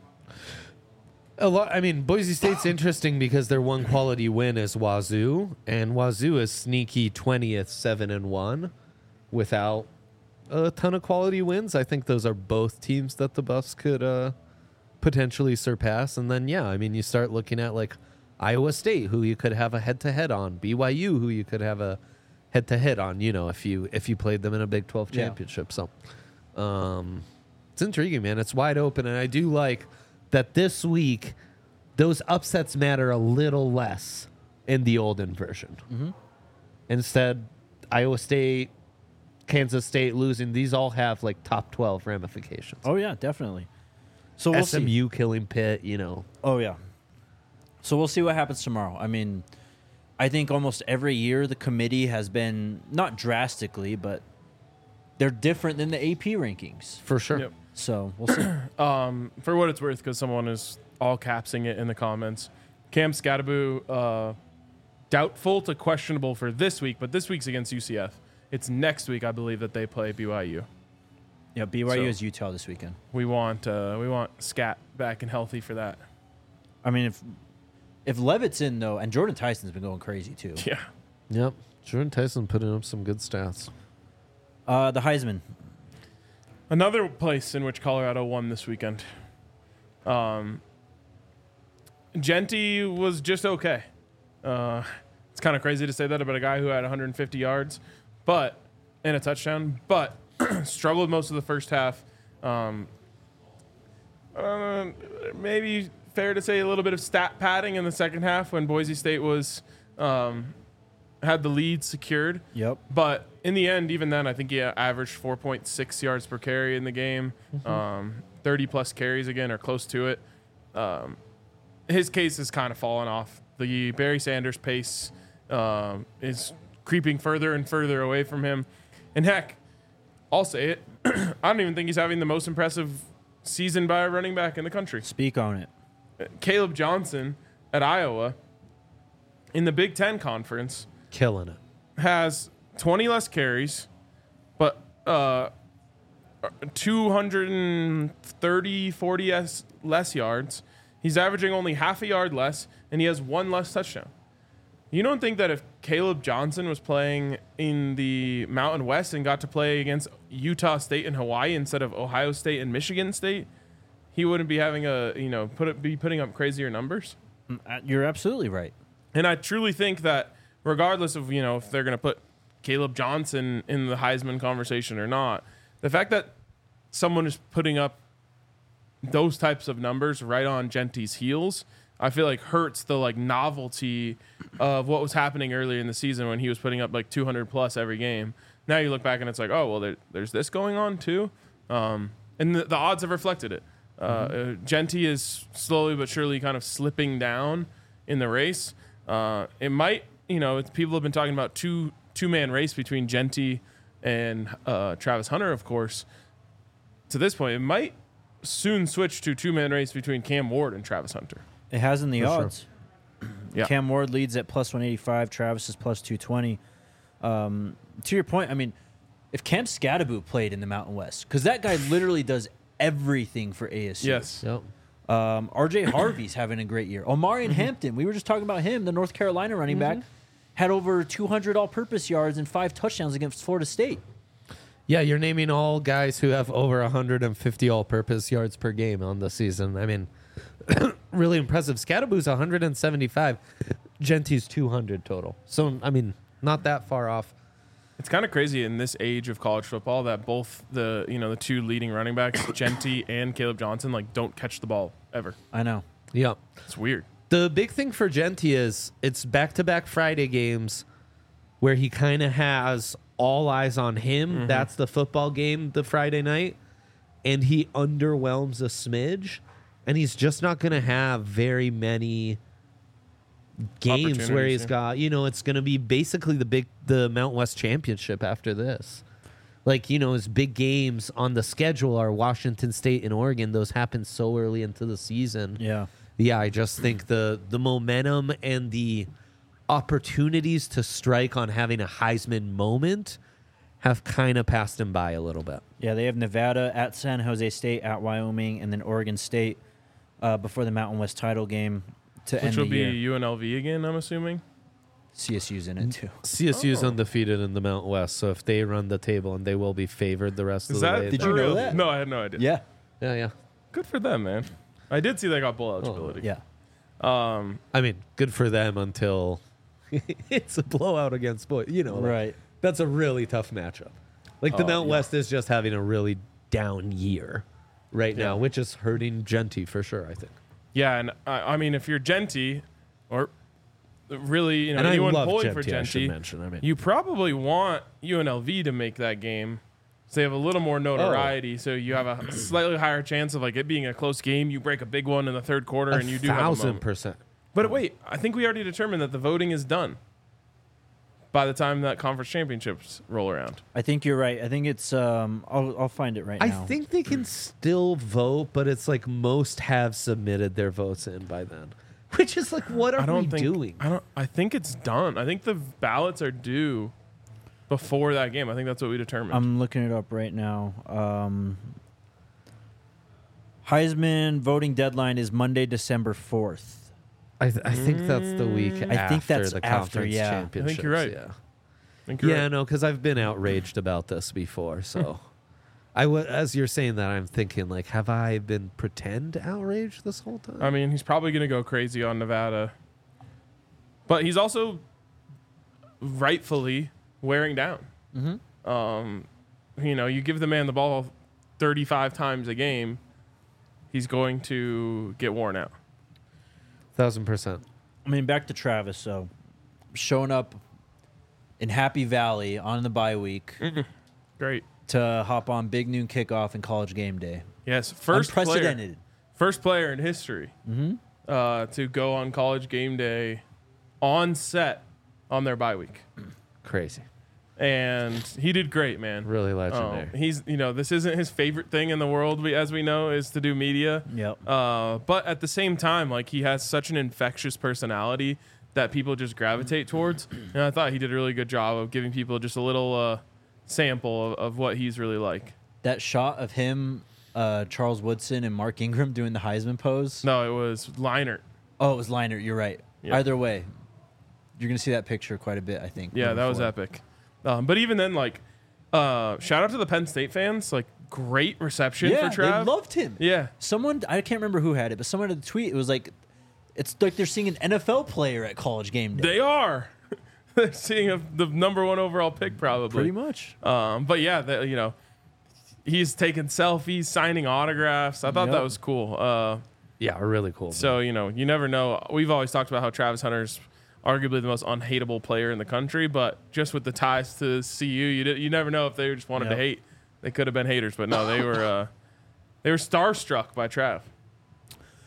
A lot. I mean, Boise State's interesting because their one quality win is Wazoo, and Wazoo is sneaky twentieth, seven and one, without a ton of quality wins. I think those are both teams that the Buffs could uh, potentially surpass. And then, yeah, I mean, you start looking at like Iowa State, who you could have a head to head on, B Y U, who you could have a head to head on. You know, if you if you played them in a Big twelve Yeah. championship. So, um, it's intriguing, man. It's wide open, and I do like that this week those upsets matter a little less in the olden version. Mm-hmm. Instead, Iowa State, Kansas State losing, these all have like top twelve ramifications. Oh yeah, definitely. So we'll S M see. U killing Pitt, you know. Oh yeah. So we'll see what happens tomorrow. I mean, I think almost every year the committee has been not drastically, but they're different than the A P rankings. For sure. Yep. So we'll see. Um, for what it's worth, because someone is all capsing it in the comments, Cam Scattaboo, uh, doubtful to questionable for this week, but this week's against U C F. It's next week, I believe, that they play B Y U. Yeah, B Y U So- is Utah this weekend. We want uh, we want Scat back and healthy for that. I mean, if if Levitt's in though, and Jordan Tyson's been going crazy too. Yeah. Yep. Jordan Tyson putting up some good stats. Uh, the Heisman. Another place in which Colorado won this weekend. Um, Genty was just okay. Uh, it's kind of crazy to say that about a guy who had one hundred fifty yards, but and a touchdown, but struggled most of the first half. Um, uh, maybe fair to say a little bit of stat padding in the second half when Boise State was um, had the lead secured. Yep. But in the end, even then, I think he averaged four point six yards per carry in the game, um, thirty plus carries again, or close to it. Um, his case has kind of fallen off. The Barry Sanders pace um, is creeping further and further away from him. And heck, I'll say it, I don't even think he's having the most impressive season by a running back in the country. Speak on it. Caleb Johnson at Iowa in the Big Ten Conference Killing it. has twenty less carries, but uh, two hundred thirty, forty less, less yards. He's averaging only half a yard less, and he has one less touchdown. You don't think that if Caleb Johnson was playing in the Mountain West and got to play against Utah State and Hawaii instead of Ohio State and Michigan State, he wouldn't be having a, you know, put it, be putting up crazier numbers? Mm, uh, You're absolutely right. And I truly think that regardless of, you know, if they're going to put Caleb Johnson in the Heisman conversation or not, the fact that someone is putting up those types of numbers right on Genty's heels, I feel like hurts the like novelty of what was happening earlier in the season when he was putting up like two hundred plus every game. Now you look back and it's like, oh, well, there, there's this going on too. Um, and the, the odds have reflected it. Uh, mm-hmm. uh, Genty is slowly but surely kind of slipping down in the race. Uh, it might, you know, it's, people have been talking about two two man race between Genty and uh, Travis Hunter, of course. To this point, it might soon switch to two man race between Cam Ward and Travis Hunter. It has in the For sure. odds. Yeah. Cam Ward leads at plus one eighty-five. Travis is plus two twenty. Um, to your point, I mean, if Cam Scadaboo played in the Mountain West, because that guy literally does everything for A S U. Yes. Yep. Um, R J Harvey's having a great year. Omarion Hampton, we were just talking about him, the North Carolina running back, had over two hundred all-purpose yards and five touchdowns against Florida State. Yeah, you're naming all guys who have over one hundred fifty all-purpose yards per game on the season. I mean, really impressive. Scadaboo's one hundred seventy-five. Genty's two hundred total. So, I mean, not that far off. It's kind of crazy in this age of college football that both the you know the two leading running backs, Genty and Caleb Johnson, like don't catch the ball ever. I know. Yeah. It's weird. The big thing for Genty is it's back-to-back Friday games where he kind of has all eyes on him. Mm-hmm. That's the football game, the Friday night. And he underwhelms a smidge. And he's just not going to have very many games where he's Opportunities, yeah. got, you know, it's going to be basically the big, the Mount West Championship after this. Like, you know, his big games on the schedule are Washington State and Oregon. Those happen so early into the season. Yeah. Yeah, I just think the the momentum and the opportunities to strike on having a Heisman moment have kind of passed him by a little bit. Yeah, they have Nevada at San Jose State, at Wyoming, and then Oregon State uh, before the Mountain West title game to Which end will the be year. U N L V again, I'm assuming. C S U's in it, too. C S U's Oh. undefeated in the Mountain West, so if they run the table, and they will be favored the rest Is of the that way. Did for you know real? that? No, I had no idea. Yeah. Yeah, yeah. Good for them, man. I did see they got bowl eligibility. Yeah. Um, I mean, good for them until it's a blowout against boys. You know, like, Right. that's a really tough matchup. Like the Oh, Mountain yeah. West is just having a really down year right Yeah. now, which is hurting Genty for sure, I think. yeah, and I, I mean, if you're Genty, or really, you know, And I anyone love pulling for Genty, I should Genty, mention. I mean, you probably want U N L V to make that game. So they have a little more notoriety, so you have a slightly higher chance of like it being a close game. You break a big one in the third quarter, and you do have a thousand moment. percent. But wait, I think we already determined that the voting is done by the time that conference championships roll around. I think you're right. I think it's, um, I'll, I'll find it right I now. think they can still vote, but it's like most have submitted their votes in by then. Which is like, what are I don't we think doing? I don't. I think it's done. I think the ballots are due before that game. I think that's what we determined. I'm looking it up right now. Um, Heisman voting deadline is Monday, December fourth. I, th- I think that's the week I after think that's the after, conference yeah. I championships. think you're right. Yeah, I think you're yeah, right. no, because I've been outraged about this before. So, I w- as you're saying that, I'm thinking like, have I been pretend outraged this whole time? I mean, he's probably going to go crazy on Nevada, but he's also rightfully wearing down. Mm-hmm. Um, you know, you give the man the ball thirty-five times a game, he's going to get worn out. Thousand percent. I mean, back to Travis. So, showing up in Happy Valley on the bye week Great. to hop on Big Noon Kickoff and College Game Day. Yes, first player, Unprecedented. first player in history Mm-hmm. uh, to go on College Game Day on set on their bye week. Crazy. And he did great, man. Really Um, legendary. he's, you know, this isn't his favorite thing in the world, we- as we know, is to do media. Yep. Uh, but at the same time, like he has such an infectious personality that people just gravitate towards. And I thought he did a really good job of giving people just a little uh, sample of, of what he's really like. That shot of him, uh, Charles Woodson, and Mark Ingram doing the Heisman pose. No, it was Leinert. Oh, it was Leinert. You're right. Yeah. Either way, you're going to see that picture quite a bit, I think. Yeah, moving that was forward. epic. Um, but even then, like, uh, shout out to the Penn State fans. Like, great reception Yeah, for Trav. they loved him. yeah. Someone, I can't remember who had it, but someone had a tweet. It was like, it's like they're seeing an N F L player at College Game Day. They are. They're seeing a, the number one overall pick, probably. Pretty much. Um, but yeah, the, you know, he's taking selfies, signing autographs. I thought Yep. that was cool. Uh, Yeah, really cool. so, you know, you never know. We've always talked about how Travis Hunter's arguably the most unhateable player in the country, but just with the ties to C U, you did, you never know if they just wanted Yep. to hate. They could have been haters, but no, they were uh, they were starstruck by Trav.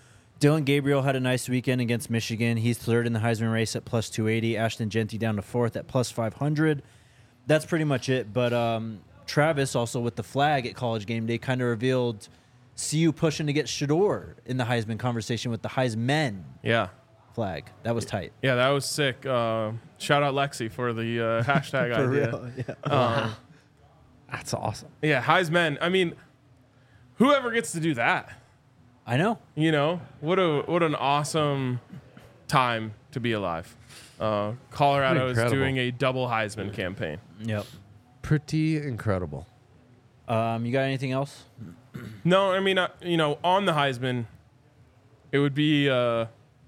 Dylan Gabriel had a nice weekend against Michigan. He's third in the Heisman race at plus two eighty. Ashton Genty down to fourth at plus five hundred. That's pretty much it. But um, Travis, also with the flag at College Game Day, kind of revealed C U pushing to get Shador in the Heisman conversation with the Heisman Yeah. flag. That was tight. Yeah, that was sick. Uh, shout out Lexi for the uh, hashtag For idea. real, yeah. Um, That's awesome. yeah, Heisman. I mean, whoever gets to do that, I know. you know, what a what an awesome time to be alive. Uh, Colorado is Incredible. doing a double Heisman campaign. Yep. Pretty incredible. Um, you got anything else? No, I mean, uh, you know, on the Heisman, it would be. Uh,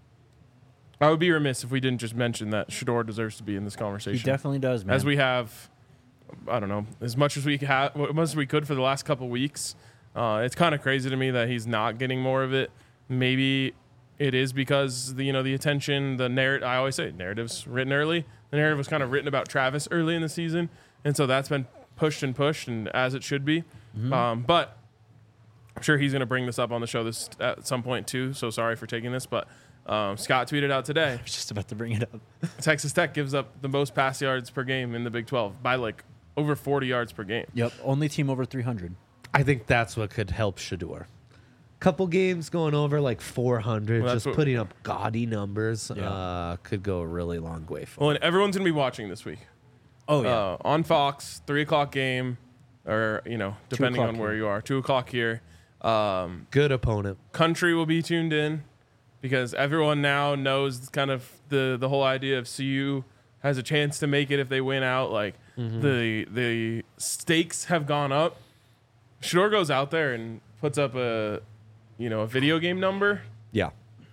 I would be remiss if we didn't just mention that Shador deserves to be in this conversation. He definitely does, man. As we have, I don't know, as much as we ha- as much as we could for the last couple weeks. Uh, it's kind of crazy to me that he's not getting more of it. Maybe it is because the you know the attention, the narrative. I always say narrative's written early. The narrative was kind of written about Travis early in the season, and so that's been pushed and pushed, and as it should be. Mm-hmm. Um, but I'm sure he's going to bring this up on the show this at some point too. So sorry for taking this, but um, Scott tweeted out today. I was just about to bring it up. Texas Tech gives up the most pass yards per game in the Big twelve by like over forty yards per game. Yep. Only team over three hundred. I think that's what could help Shador. Couple games going over like four hundred, Well, that's just what- putting up gaudy numbers Yeah. uh, could go a really long way for Well, and everyone's going to be watching this week. Oh, yeah. Uh, on Fox, three o'clock game, or, you know, depending o'clock on where here. you are, two o'clock here. Um, Good opponent. country will be tuned in because everyone now knows kind of the, the whole idea of C U has a chance to make it if they win out. Like, the the stakes have gone up. Shador goes out there and puts up a, you know, a video game number. Yeah.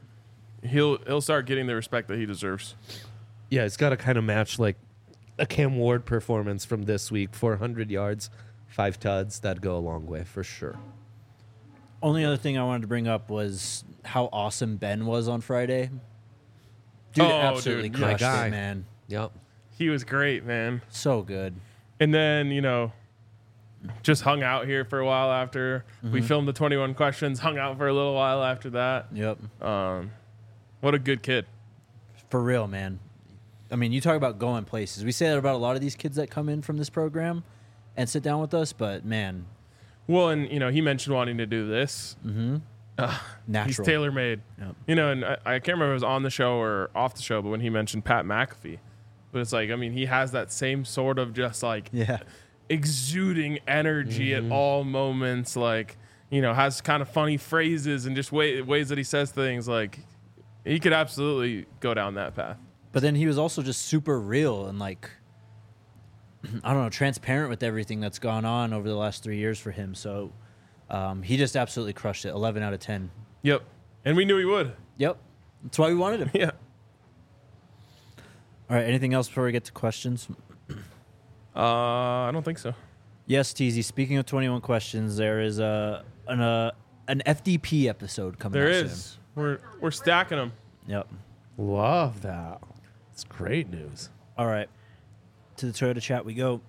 He'll he'll start getting the respect that he deserves. Yeah, it's got to kind of match like a Cam Ward performance from this week. four hundred yards, five tuds. That'd go a long way for sure. Only other thing I wanted to bring up was how awesome Ben was on Friday. Dude, Oh, absolutely dude. My crushed guy. it, man. Yep. He was great, man. So good. And then, you know, just hung out here for a while after we filmed the twenty-one questions, hung out for a little while after that. Yep. Um, what a good kid. For real, man. I mean, you talk about going places. We say that about a lot of these kids that come in from this program and sit down with us, but man, Well, and, you know, he mentioned wanting to do this. natural. He's tailor made. Yep. You know, and I, I can't remember if it was on the show or off the show, but when he mentioned Pat McAfee. But it's like, I mean, he has that same sort of just like Yeah. exuding energy at all moments, like, you know, has kind of funny phrases and just way, ways that he says things. Like, he could absolutely go down that path. But then he was also just super real and like, I don't know, transparent with everything that's gone on over the last three years for him. So um, he just absolutely crushed it. eleven out of ten. Yep. And we knew he would. Yep. That's why we wanted him. Yeah. All right. Anything else before we get to questions? Uh, I don't think so. Yes, Teasy. Speaking of twenty-one questions, there is a an uh, an F D P episode coming. There out is. We're we're stacking them. Soon. Yep. Love that. It's great news. All right. To the Toyota chat we go.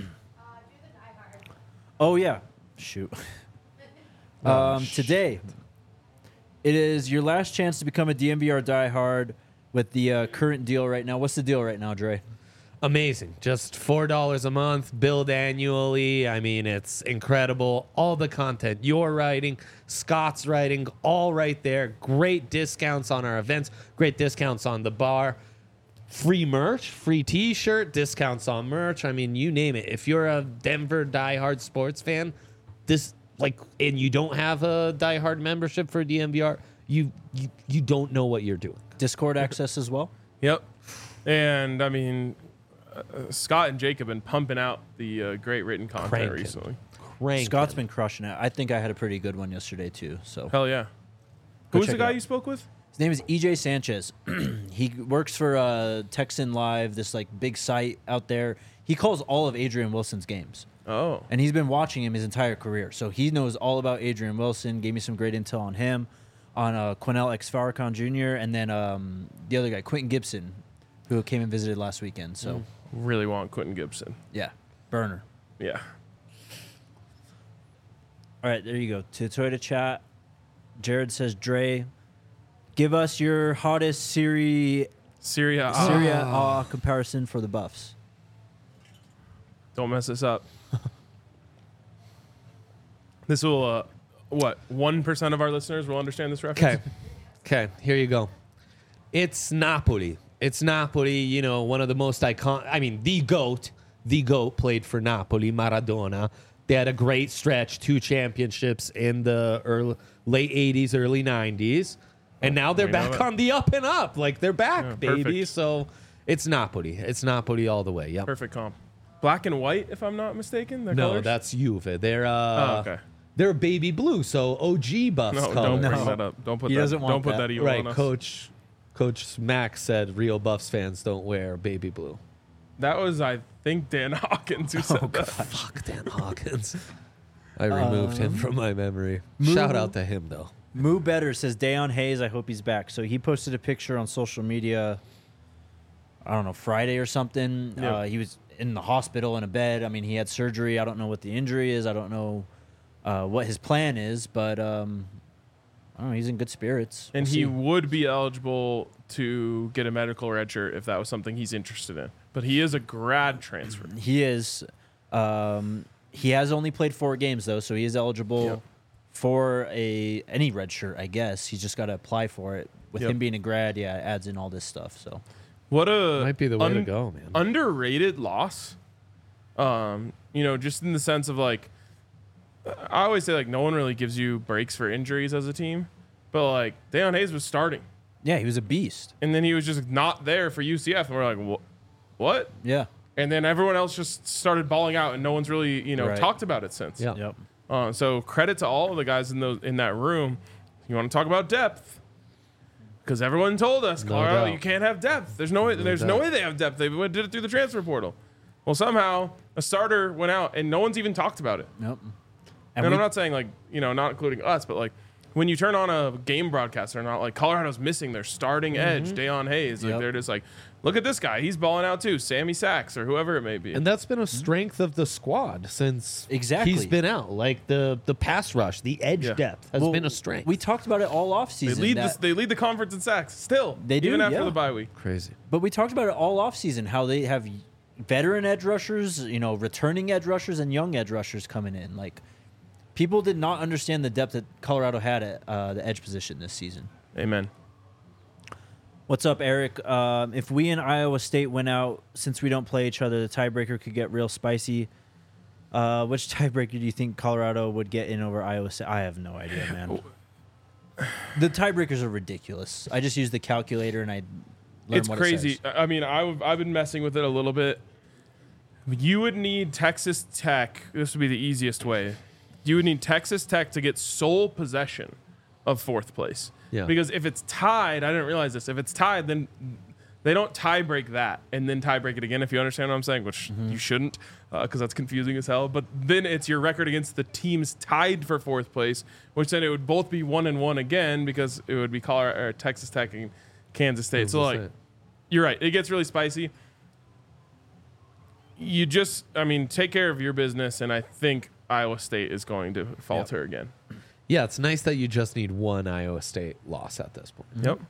Oh yeah. Shoot. um, today, it is your last chance to become a D M V R diehard with the uh, current deal right now. What's the deal right now, Dre? Amazing. Just four dollars a month, billed annually. I mean, it's incredible. All the content you're writing, Scott's writing, all right there. Great discounts on our events, great discounts on the bar. Free merch, free t-shirt, discounts on merch. I mean, you name it. If you're a Denver diehard sports fan, this like and you don't have a diehard membership for D M V R, you you, you don't know what you're doing. Discord access as well. Yep. And I mean, uh, Scott and Jake have been pumping out the uh, great written content Cranking. recently. Crank Scott's it. been crushing it. I think I had a pretty good one yesterday too. So Hell yeah. Go Who was check the it guy out. you spoke with? his name is E J Sanchez. He works for uh, Texan Live, this like big site out there. He calls all of Adrian Wilson's games. Oh. And he's been watching him his entire career. So he knows all about Adrian Wilson, gave me some great intel on him, on uh, Quinnell X. Farrakhan Junior, and then um, the other guy, Quentin Gibson, who came and visited last weekend. So, Really want Quentin Gibson. yeah, burner. Yeah. All right, there you go. To Toyota chat, Jared says, Dre, Give us your hottest Serie Syria. Serie Ah, A comparison for the Buffs. don't mess this up. This will, uh, what, one percent of our listeners will understand this reference? Okay. Okay, here you go. It's Napoli. It's Napoli, you know, one of the most iconic, I mean, the GOAT, the GOAT played for Napoli, Maradona. They had a great stretch, two championships in the early, late eighties, early nineties. And now they're we know back it. on the up and up. Like, they're back, Yeah, baby. perfect. So it's Napoli. It's Napoli all the way. Yep. Perfect comp. Black and white, if I'm not mistaken. Their No, colors? that's Juve. They're, uh, Oh, okay. they're baby blue, so O G Buffs No, colors. don't bring No. that up. Don't put He that. doesn't want don't put that. that evil Right, on us. Coach Coach Max said real Buffs fans don't wear baby blue. That was, I think, Dan Hawkins who said that. Fuck Dan Hawkins. I removed Um, him from my memory. Shout out to him though. Moo Better says Dayon Hayes, I hope he's back. So he posted a picture on social media, I don't know, Friday or something. Yeah. Uh, he was in the hospital in a bed. I mean, he had surgery. I don't know what the injury is. I don't know uh, what his plan is, but um, I don't know. He's in good spirits. And We'll he see. would be eligible to get a medical red shirt if that was something he's interested in. But he is a grad transfer. He is. Um, he has only played four games though, so he is eligible Yep. for a any red shirt. I guess he's just got to apply for it. With Yep. him being a grad, yeah, it adds in all this stuff. So What a Might be the way to un- go, man. underrated loss. Um, you know, just in the sense of like, I always say like no one really gives you breaks for injuries as a team, but like Dayon Hayes was starting, yeah, he was a beast. and then he was just not there for U C F, and we're like, "Wha- what? Yeah. And then everyone else just started balling out, and no one's really you know Right. talked about it since. Yeah. Yep. Uh, so credit to all of the guys in those in that room. You want to talk about depth? Because everyone told us, No Colorado, doubt. you can't have depth. There's no way. No there's no doubt. way they have depth. They went- did it through the transfer portal. Well, somehow a starter went out, and no one's even talked about it. Yep. And, And I'm we, not saying like you know, not including us, but like when you turn on a game broadcast, they're not like Colorado's missing their starting edge, Dayon Hayes. Like Yep. they're just like, look at this guy, he's balling out too, Sammy Sachs or whoever it may be. And that's been a strength of the squad since Exactly. he's been out. Like the the pass rush, the edge Yeah. depth has well, been a strength. We talked about it all off they season. lead that- this, they lead the conference in sacks still. They do, even after yeah. the bye week. Crazy. but we talked about it all off season. How they have veteran edge rushers, you know, returning edge rushers, and young edge rushers coming in. Like people did not understand the depth that Colorado had at uh, the edge position this season. Amen. What's up, Eric? Um, if we and Iowa State went out, since we don't play each other, the tiebreaker could get real spicy. Uh, which tiebreaker do you think Colorado would get in over Iowa State? I have no idea, man. The tiebreakers are ridiculous. I just use the calculator and I learn It's what crazy. It says. I mean, I've, I've been messing with it a little bit. You would need Texas Tech. This would be the easiest way. You would need Texas Tech to get sole possession of fourth place. Yeah. Because if it's tied, I didn't realize this. If it's tied, then they don't tie break that and then tie break it again, if you understand what I'm saying, which you shouldn't because that's confusing as hell. But then it's your record against the teams tied for fourth place, which then it would both be one and one again because it would be Colorado, or Texas Tech and Kansas State. So, like, you're right. It gets really spicy. You just, I mean, take care of your business, and I think Iowa State is going to falter again. Yeah, it's nice that you just need one Iowa State loss at this point. Yep.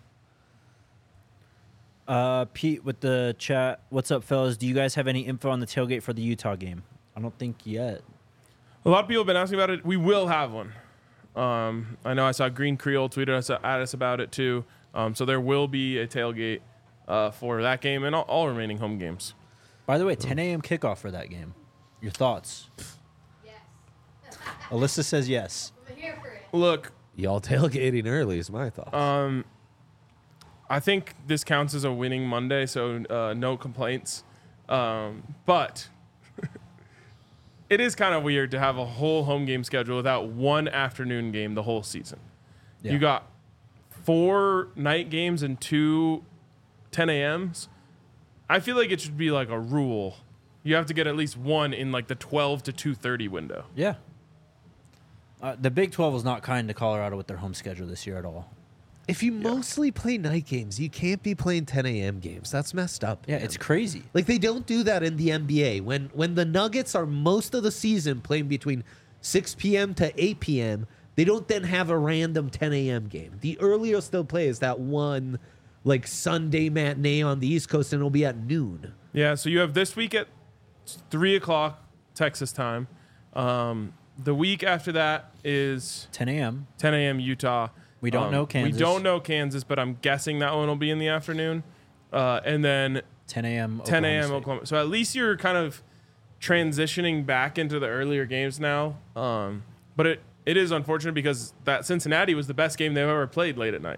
Uh, Pete with the chat. What's up, fellas? Do you guys have any info on the tailgate for the Utah game? I don't think yet. A lot of people have been asking about it. We will have one. Um, I know I saw Green Creole tweeted us at us about it too. Um, so there will be a tailgate uh, for that game and all, all remaining home games. By the way, ten a.m. kickoff for that game. Your thoughts? Yes. Alyssa says yes. I'm here for it. Look, Y'all tailgating early is my thought. um, I think this counts as a winning Monday, so uh, no complaints. Um, but it is kind of weird to have a whole home game schedule without one afternoon game the whole season. Yeah. You got four night games and two ten a.m.s. I feel like it should be like a rule. You have to get at least one in like the twelve to two thirty window. Yeah. Uh, the Big twelve was not kind to Colorado with their home schedule this year at all. If you mostly play night games, you can't be playing ten a.m. games. That's messed up. Yeah, man. it's crazy. Like they don't do that in the N B A. When when the Nuggets are most of the season playing between six p.m. to eight p.m., They don't then have a random ten a.m. game. The earliest they'll play is that one like Sunday matinee on the East Coast, and it'll be at noon. Yeah, so you have this week at three o'clock Texas time. Um, the week after that is ten a.m. ten a.m. Utah. We don't Um, know Kansas. We don't know Kansas, but I'm guessing that one will be in the afternoon. Uh, and then ten a.m. ten a.m. State. Oklahoma. So at least you're kind of transitioning back into the earlier games now. Um, but it, it is unfortunate because that Cincinnati was the best game they've ever played late at night.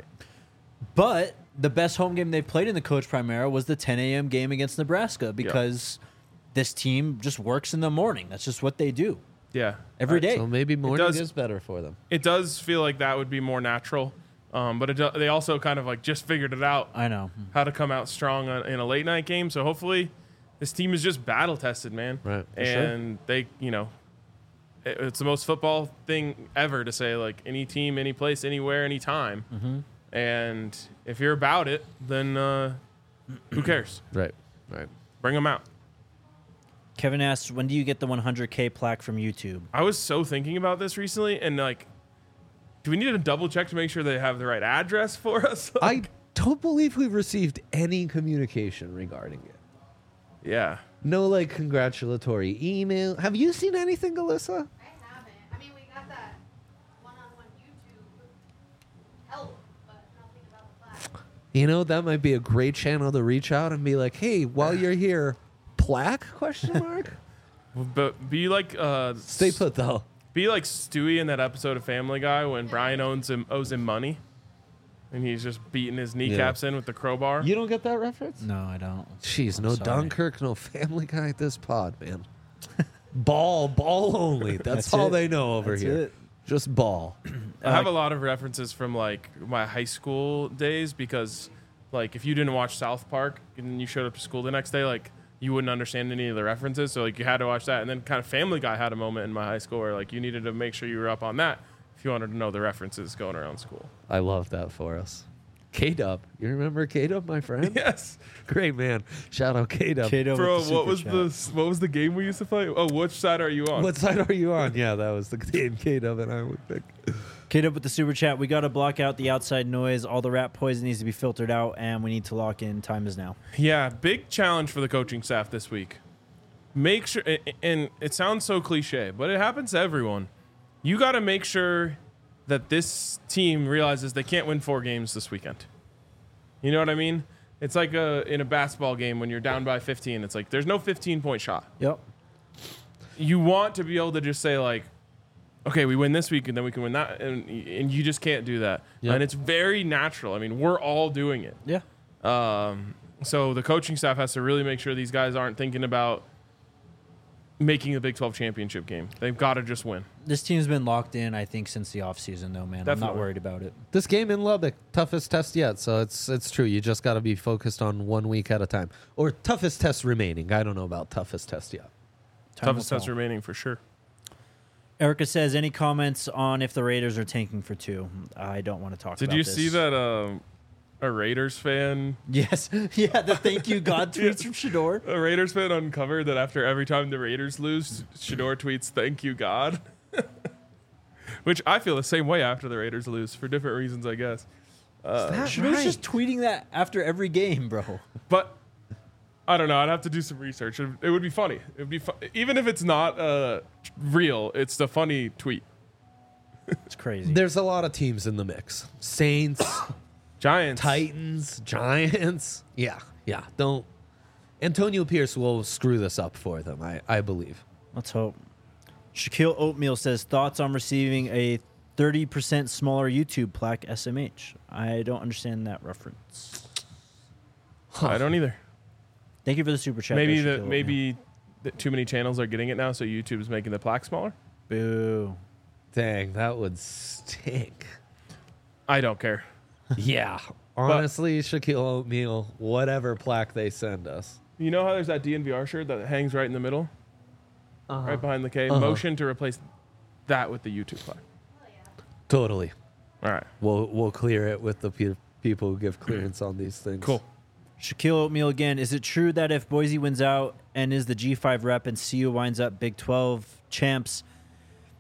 But the best home game they've played in the Coach Primera was the ten a.m. game against Nebraska because this team just works in the morning. That's just what they do Yeah. every day. So maybe morning does- is better for them. It does feel like that would be more natural. Um, but it, do- they also kind of like just figured it out I know. how to come out strong on, in a late night game. So hopefully this team is just battle tested, man. Right, for And they, you know, it, it's the most football thing ever to say like any team, any place, anywhere, anytime. Mm-hmm. And if you're about it, then uh, who cares? Right, right. Bring them out. Kevin asks, when do you get the one hundred K plaque from YouTube? I was so thinking about this recently, and like, do we need to double check to make sure they have the right address for us? I don't believe we've received any communication regarding it. yeah. No, like, congratulatory email. Have you seen anything, Alyssa? I haven't. I mean, we got that one-on-one YouTube help, but nothing about the plaque. You know, that might be a great channel to reach out and be like, hey, while you're here, plaque, question mark? But be like, uh, Stay put, though. Be like Stewie in that episode of Family Guy when Brian owns him owes him money, and he's just beating his kneecaps in with the crowbar. You don't get that reference? No, I don't. Jeez, I'm no sorry. Dunkirk, no Family Guy at this pod, man. Ball, ball only. That's, That's all it. they know over That's here. it. Just ball. I have a lot of references from like my high school days because, like, if you didn't watch South Park and you showed up to school the next day, like, you wouldn't understand any of the references. So like you had to watch that, and then kind of Family Guy had a moment in my high school where like you needed to make sure you were up on that if you wanted to know the references going around school. I love that for us. K-Dub. You remember K-Dub, my friend? Yes, Great man. Shout out K-Dub. Kato bro. with the What super was chat. the what was the game we used to play? Oh, which side are you on? What side are you on? Yeah, that was the game K-Dub and I would pick. Kato with the super chat. We got to block out the outside noise. All the rat poison needs to be filtered out, and we need to lock in. Time is now. Yeah, big challenge for the coaching staff this week. Make sure, and it sounds so cliche, but it happens to everyone. You got to make sure that this team realizes they can't win four games this weekend. You know what I mean? It's like a, in a basketball game when you're down by fifteen. It's like there's no fifteen-point shot. Yep. You want to be able to just say like, okay, we win this week and then we can win that, and and you just can't do that. Yep. And it's very natural. I mean, we're all doing it. Yeah. Um, so the coaching staff has to really make sure these guys aren't thinking about making the Big twelve championship game. They've got to just win. This team's been locked in, I think, since the offseason, though, man. I'm not Definitely. worried about it. This game in Lubbock, toughest test yet. So it's it's true. You just got to be focused on one week at a time. Or toughest test remaining. I don't know about toughest test yet. Time Toughest will test tell. remaining for sure. Erica says, any comments on if the Raiders are tanking for two? I don't want to talk Did about you this. see that um, a Raiders fan, Yes. Yeah, the thank you God tweets from Shador. a Raiders fan uncovered that after every time the Raiders lose, Shador tweets "Thank you God," which I feel the same way after the Raiders lose for different reasons, I guess. Uh, That Shador's right. just tweeting that after every game, bro. But I don't know. I'd have to do some research. It, it would be funny. It would be fu- even if it's not uh, real. It's the funny tweet. It's crazy. There's a lot of teams in the mix. Saints, Giants, Titans, Giants. Yeah, yeah. Don't. Antonio Pierce will screw this up for them, I, I believe. Let's hope. Shaquille Oatmeal says, thoughts on receiving a thirty percent smaller YouTube plaque S M H? I don't understand that reference. I don't either. Thank you for the super chat. Maybe there, the Shaquille maybe the, too many channels are getting it now, so YouTube's making the plaque smaller. Oatmeal. Boo. Dang, that would stink. I don't care. Yeah. Honestly, Shaquille Oatmeal, whatever plaque they send us. You know how there's that D N V R shirt that hangs right in the middle, Uh-huh. right behind the K. Uh-huh. Motion to replace that with the YouTube plaque. Oh, yeah. Totally. All right, We'll we'll clear it with the pe- people who give clearance on these things. cool. Shaquille Oatmeal again. Is it true that if Boise wins out and is the G five rep and C U winds up Big twelve champs,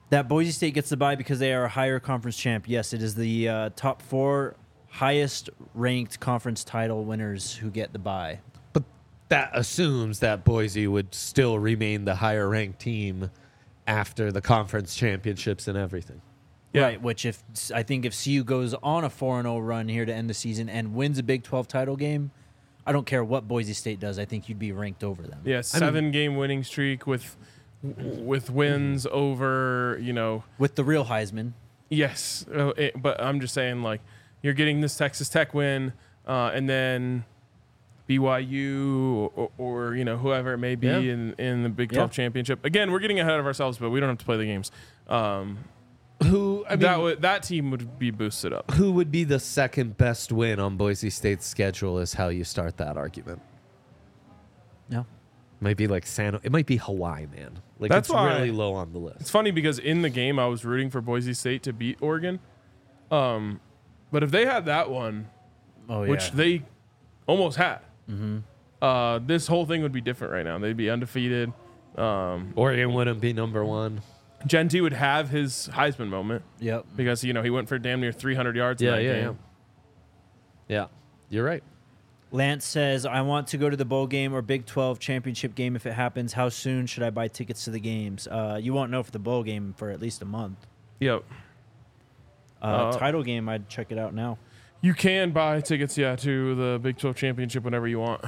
That Boise State gets the bye because they are a higher conference champ. Yes, it is the uh, top four highest ranked conference title winners who get the bye. But that assumes that Boise would still remain the higher ranked team after the conference championships and everything. Yeah. Right, which if I think if C U goes on a four and oh run here to end the season and wins a Big twelve title game, I don't care what Boise State does. I think you'd be ranked over them. Yeah, seven game winning streak with with wins over, you know. With the real Heisman. Yes, uh, it, but I'm just saying, like, you're getting this Texas Tech win, uh, and then B Y U or, or, you know, whoever it may be Yeah. in, in the Big twelve Yeah. championship. Again, we're getting ahead of ourselves, but we don't have to play the games. Um, Who I mean, that would that team would be boosted up. who would be the second best win on Boise State's schedule is how you start that argument. No. Might be like San. It might be Hawaii, man. Like That's it's why- really low on the It's list. funny because in the game I was rooting for Boise State to beat Oregon, um, but if they had that one, Oh yeah. which they almost had, uh, this whole thing would be different right now. They'd be undefeated. Um, Oregon wouldn't be number one. Genty would have his Heisman moment Yep. because you know he went for damn near three hundred yards in Yeah, that yeah, game. yeah. Yeah, you're right. Lance says, I want to go to the bowl game or Big twelve championship game if it happens. How soon should I buy tickets to the games? Uh, you won't know for the bowl game for at least a month. Yep. Uh, Uh, title game, I'd check it out now. You can buy tickets, yeah, to the Big twelve championship whenever you want.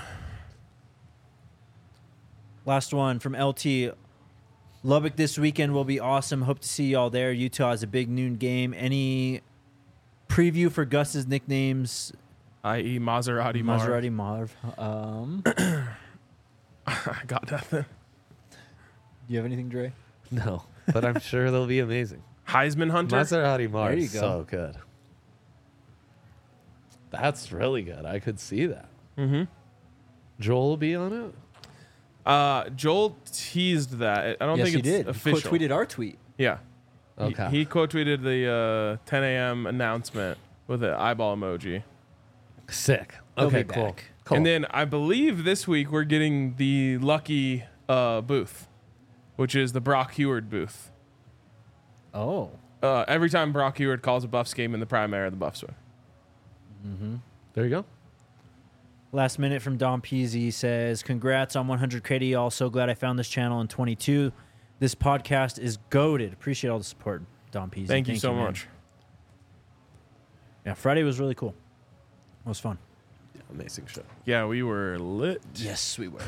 Last one from L T. Lubbock this weekend will be awesome. Hope to see y'all there. Utah is a big noon game. Any preview for Gus's nicknames? that is. Maserati Marv. Maserati Marv. Um, I got nothing. do you have anything, Dre? No, but I'm sure they'll be amazing. Heisman Hunter. Maserati Mars There you is go. so good. That's really good. I could see that. Mm-hmm. Joel will be on it. Uh, Joel teased that. I don't yes, think he it's did. official. Quote tweeted our tweet. Yeah. He- Okay. He, quote tweeted the uh, ten a.m. announcement with an eyeball emoji. Sick. He'll Okay, be cool. back. Cool. And then I believe this week we're getting the lucky uh, booth, which is the Brock Heward booth. Oh. Uh, every time Brock Heward calls a Buffs game in the primary, the Buffs win. there you go. Last minute from Dom Peasy says, congrats on one hundred K D, y'all. So glad I found this channel in twenty-two. This podcast is goated. Appreciate all the support, Dom Peasy. Thank, you so man. much. Yeah, Friday was really cool. It was fun. Amazing show. Yeah, we were lit. Yes, we were.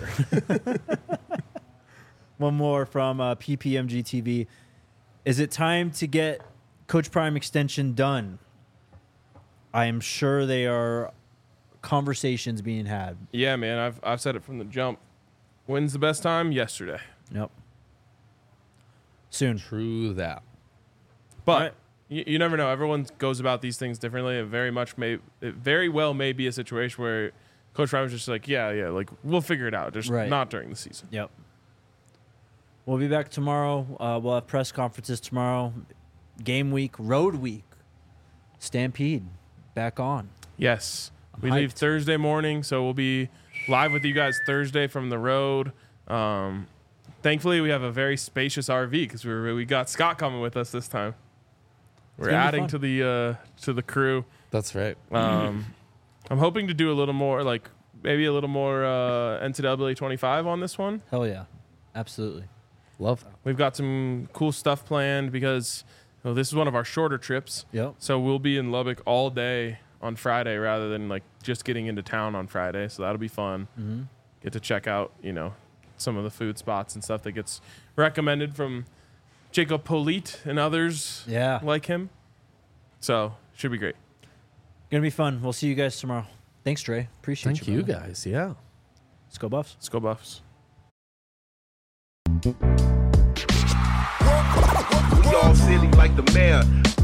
One more from uh, P P M G T V. Is it time to get Coach Prime extension done? I am sure they are conversations being had. Yeah, man, I've I've said it from the jump. When's the best time? Yesterday. Yep. Soon. True that. But Right. you, you never know. Everyone goes about these things differently. It very much may, it very well may be a situation where Coach Ryan was just like, yeah, yeah, like we'll figure it out, just Right. not during the season. Yep. We'll be back tomorrow. Uh, we'll have press conferences tomorrow. Game week, road week. Stampede back on. Yes, I'm we leave hyped. Thursday morning, so we'll be live with you guys Thursday from the road. Um, thankfully, we have a very spacious R V because we were, we got Scott coming with us this time. We're gonna be adding fun. to the uh, to the crew. That's right. Um, I'm hoping to do a little more, like maybe a little more uh, N C double A twenty-five on this one. Hell yeah. Absolutely. Love that. We've got some cool stuff planned because you know, this is one of our shorter trips. Yep. So we'll be in Lubbock all day on Friday rather than like just getting into town on Friday. So that'll be fun. Mm-hmm. Get to check out, you know, some of the food spots and stuff that gets recommended from Jacob Polite and others Yeah. like him. So should be great. Gonna be fun. We'll see you guys tomorrow. Thanks, Dre. Appreciate Thank you. you brother. guys. Yeah. Let's go Buffs. Let's go Buffs. We all silly like the mayor.